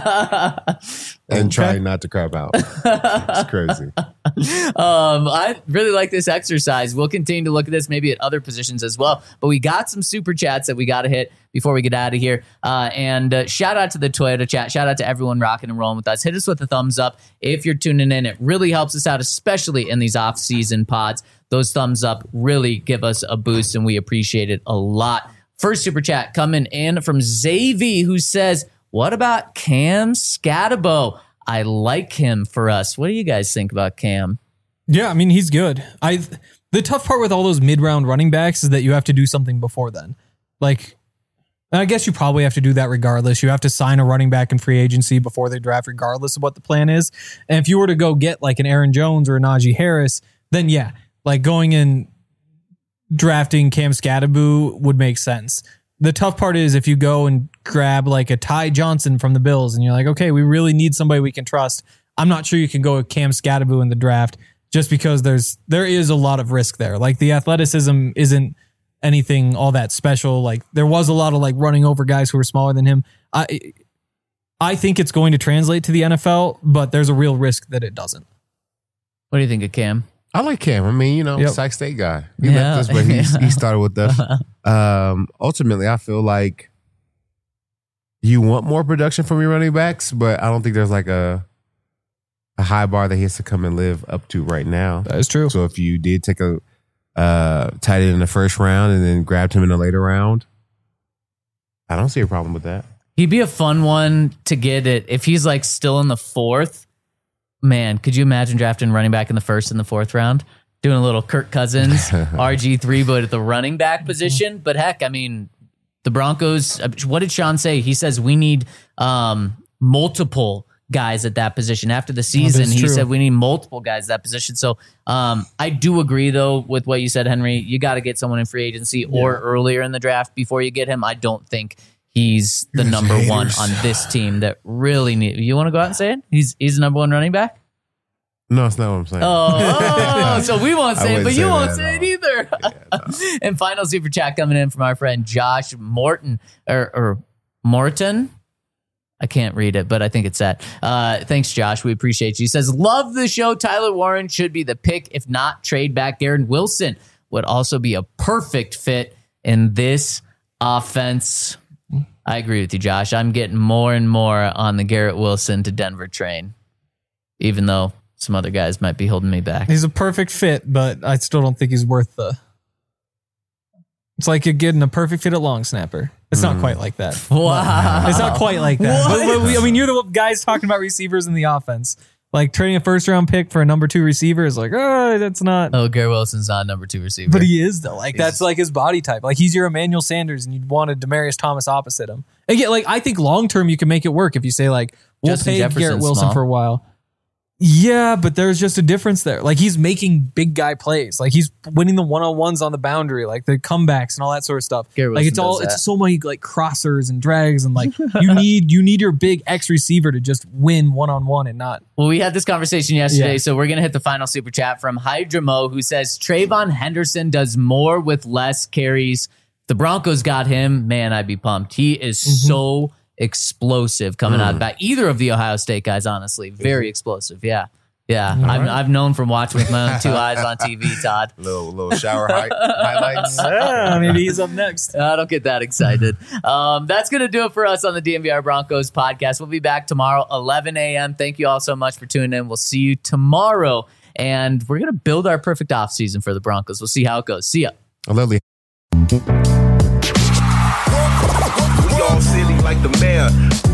Speaker 2: and trying not to crap out. It's crazy.
Speaker 1: Um, I really like this exercise. We'll continue to look at this maybe at other positions as well. But we got some super chats that we got to hit before we get out of here. Uh, and uh, shout out to the Toyota chat. Shout out to everyone rocking and rolling with us. Hit us with a thumbs up if you're tuning in. It really helps us out, especially in these off-season pods. Those thumbs up really give us a boost, and we appreciate it a lot. First super chat coming in from Xavier, who says, what about Cam Scatabo? I like him for us. What do you guys think about Cam?
Speaker 3: Yeah, I mean, he's good. I the tough part with all those mid-round running backs is that you have to do something before then. Like, and I guess you probably have to do that regardless. You have to sign a running back in free agency before they draft, regardless of what the plan is. And if you were to go get like an Aaron Jones or a Najee Harris, then yeah, like going and drafting Cam Scatabo would make sense. The tough part is if you go and grab like a Ty Johnson from the Bills and you're like, okay, we really need somebody we can trust. I'm not sure you can go with Cam Scatabo in the draft just because there's there is a lot of risk there. Like the athleticism isn't anything all that special. Like there was a lot of like running over guys who were smaller than him. I I think it's going to translate to the N F L, but there's a real risk that it doesn't.
Speaker 1: What do you think of Cam?
Speaker 2: I like Cam. I mean, you know,
Speaker 3: Yep.
Speaker 2: Sac State guy. He
Speaker 1: Yeah.
Speaker 2: left us, but he, he started with us. Um, ultimately, I feel like you want more production from your running backs, but I don't think there's like a a high bar that he has to come and live up to right now.
Speaker 3: That is true.
Speaker 2: So if you did take a uh, tight end in the first round and then grabbed him in the later round, I don't see a problem with that.
Speaker 1: He'd be a fun one to get it if he's like still in the fourth. Man, could you imagine drafting running back in the first and the fourth round? Doing a little Kirk Cousins, R G three, but at the running back position. But heck, I mean, the Broncos, what did Sean say? He says we need um, multiple guys at that position. After the season,
Speaker 3: that's
Speaker 1: he
Speaker 3: true.
Speaker 1: said we need multiple guys at that position. So um, I do agree, though, with what you said, Henry. You got to get someone in free agency or earlier in the draft before you get him. I don't think he's the
Speaker 2: You
Speaker 1: number
Speaker 2: haters.
Speaker 1: one on this team that really need. You want to go out and say it? He's he's the number one running back.
Speaker 2: No, it's not what I'm saying.
Speaker 1: Oh, oh, so we won't
Speaker 2: I
Speaker 1: say it,
Speaker 2: wouldn't
Speaker 1: but
Speaker 2: say
Speaker 1: you
Speaker 2: that
Speaker 1: won't
Speaker 2: at
Speaker 1: say it
Speaker 2: all.
Speaker 1: either. And final super chat coming in from our friend Josh Morton or, or Morton. I can't read it, but I think it's that. Uh, thanks, Josh. We appreciate you. He says, love the show. Tyler Warren should be the pick. If not, trade back. Garrett Wilson would also be a perfect fit in this offense. I agree with you, Josh. I'm getting more and more on the Garrett Wilson to Denver train, even though some other guys might be holding me back.
Speaker 3: He's a perfect fit, but I still don't think he's worth the. It's like you're getting a perfect fit at long snapper. It's not quite like that.
Speaker 1: Wow.
Speaker 3: It's not quite like that.
Speaker 1: What?
Speaker 3: But- but we- I mean, you're the guys talking about receivers in the offense. Like trading a first round pick for a number two receiver is like, oh, that's not.
Speaker 1: Oh, Garrett Wilson's not a number two receiver.
Speaker 3: But he is though. Like that's like his body type. Like he's your Emmanuel Sanders, and you'd want a Demarius Thomas opposite him. Again, like I think long term you can make it work if you say like we'll
Speaker 1: Justin
Speaker 3: pay
Speaker 1: Jefferson's
Speaker 3: Garrett Wilson
Speaker 1: small.
Speaker 3: for a while. Yeah, but there's just a difference there. Like he's making big guy plays. Like he's winning the one on ones on the boundary, like the comebacks and all that sort of stuff.
Speaker 1: Garrett
Speaker 3: like it's
Speaker 1: Wilson
Speaker 3: all
Speaker 1: does that.
Speaker 3: it's so many like crossers and drags and like you need you need your big X receiver to just win one on one and not.
Speaker 1: Well, we had this conversation yesterday,
Speaker 3: Yeah.
Speaker 1: so we're going to hit the final super chat from Hydramo, who says Trayvon Henderson does more with less carries. The Broncos got him. Man, I'd be pumped. He is
Speaker 3: Mm-hmm.
Speaker 1: so explosive coming out of the back. Either of the Ohio State guys, honestly. Very explosive, yeah. Yeah, I've, right. I've known from watching with my own two eyes on T V, Todd.
Speaker 2: Little little shower hi- highlights.
Speaker 3: Yeah, maybe he's up next.
Speaker 1: I don't get that excited. Um, that's going to do it for us on the D N V R Broncos podcast. We'll be back tomorrow, eleven a.m. Thank you all so much for tuning in. We'll see you tomorrow. And we're going to build our perfect offseason for the Broncos. We'll see how it goes. See ya.
Speaker 2: I love the
Speaker 5: We all silly like the mayor.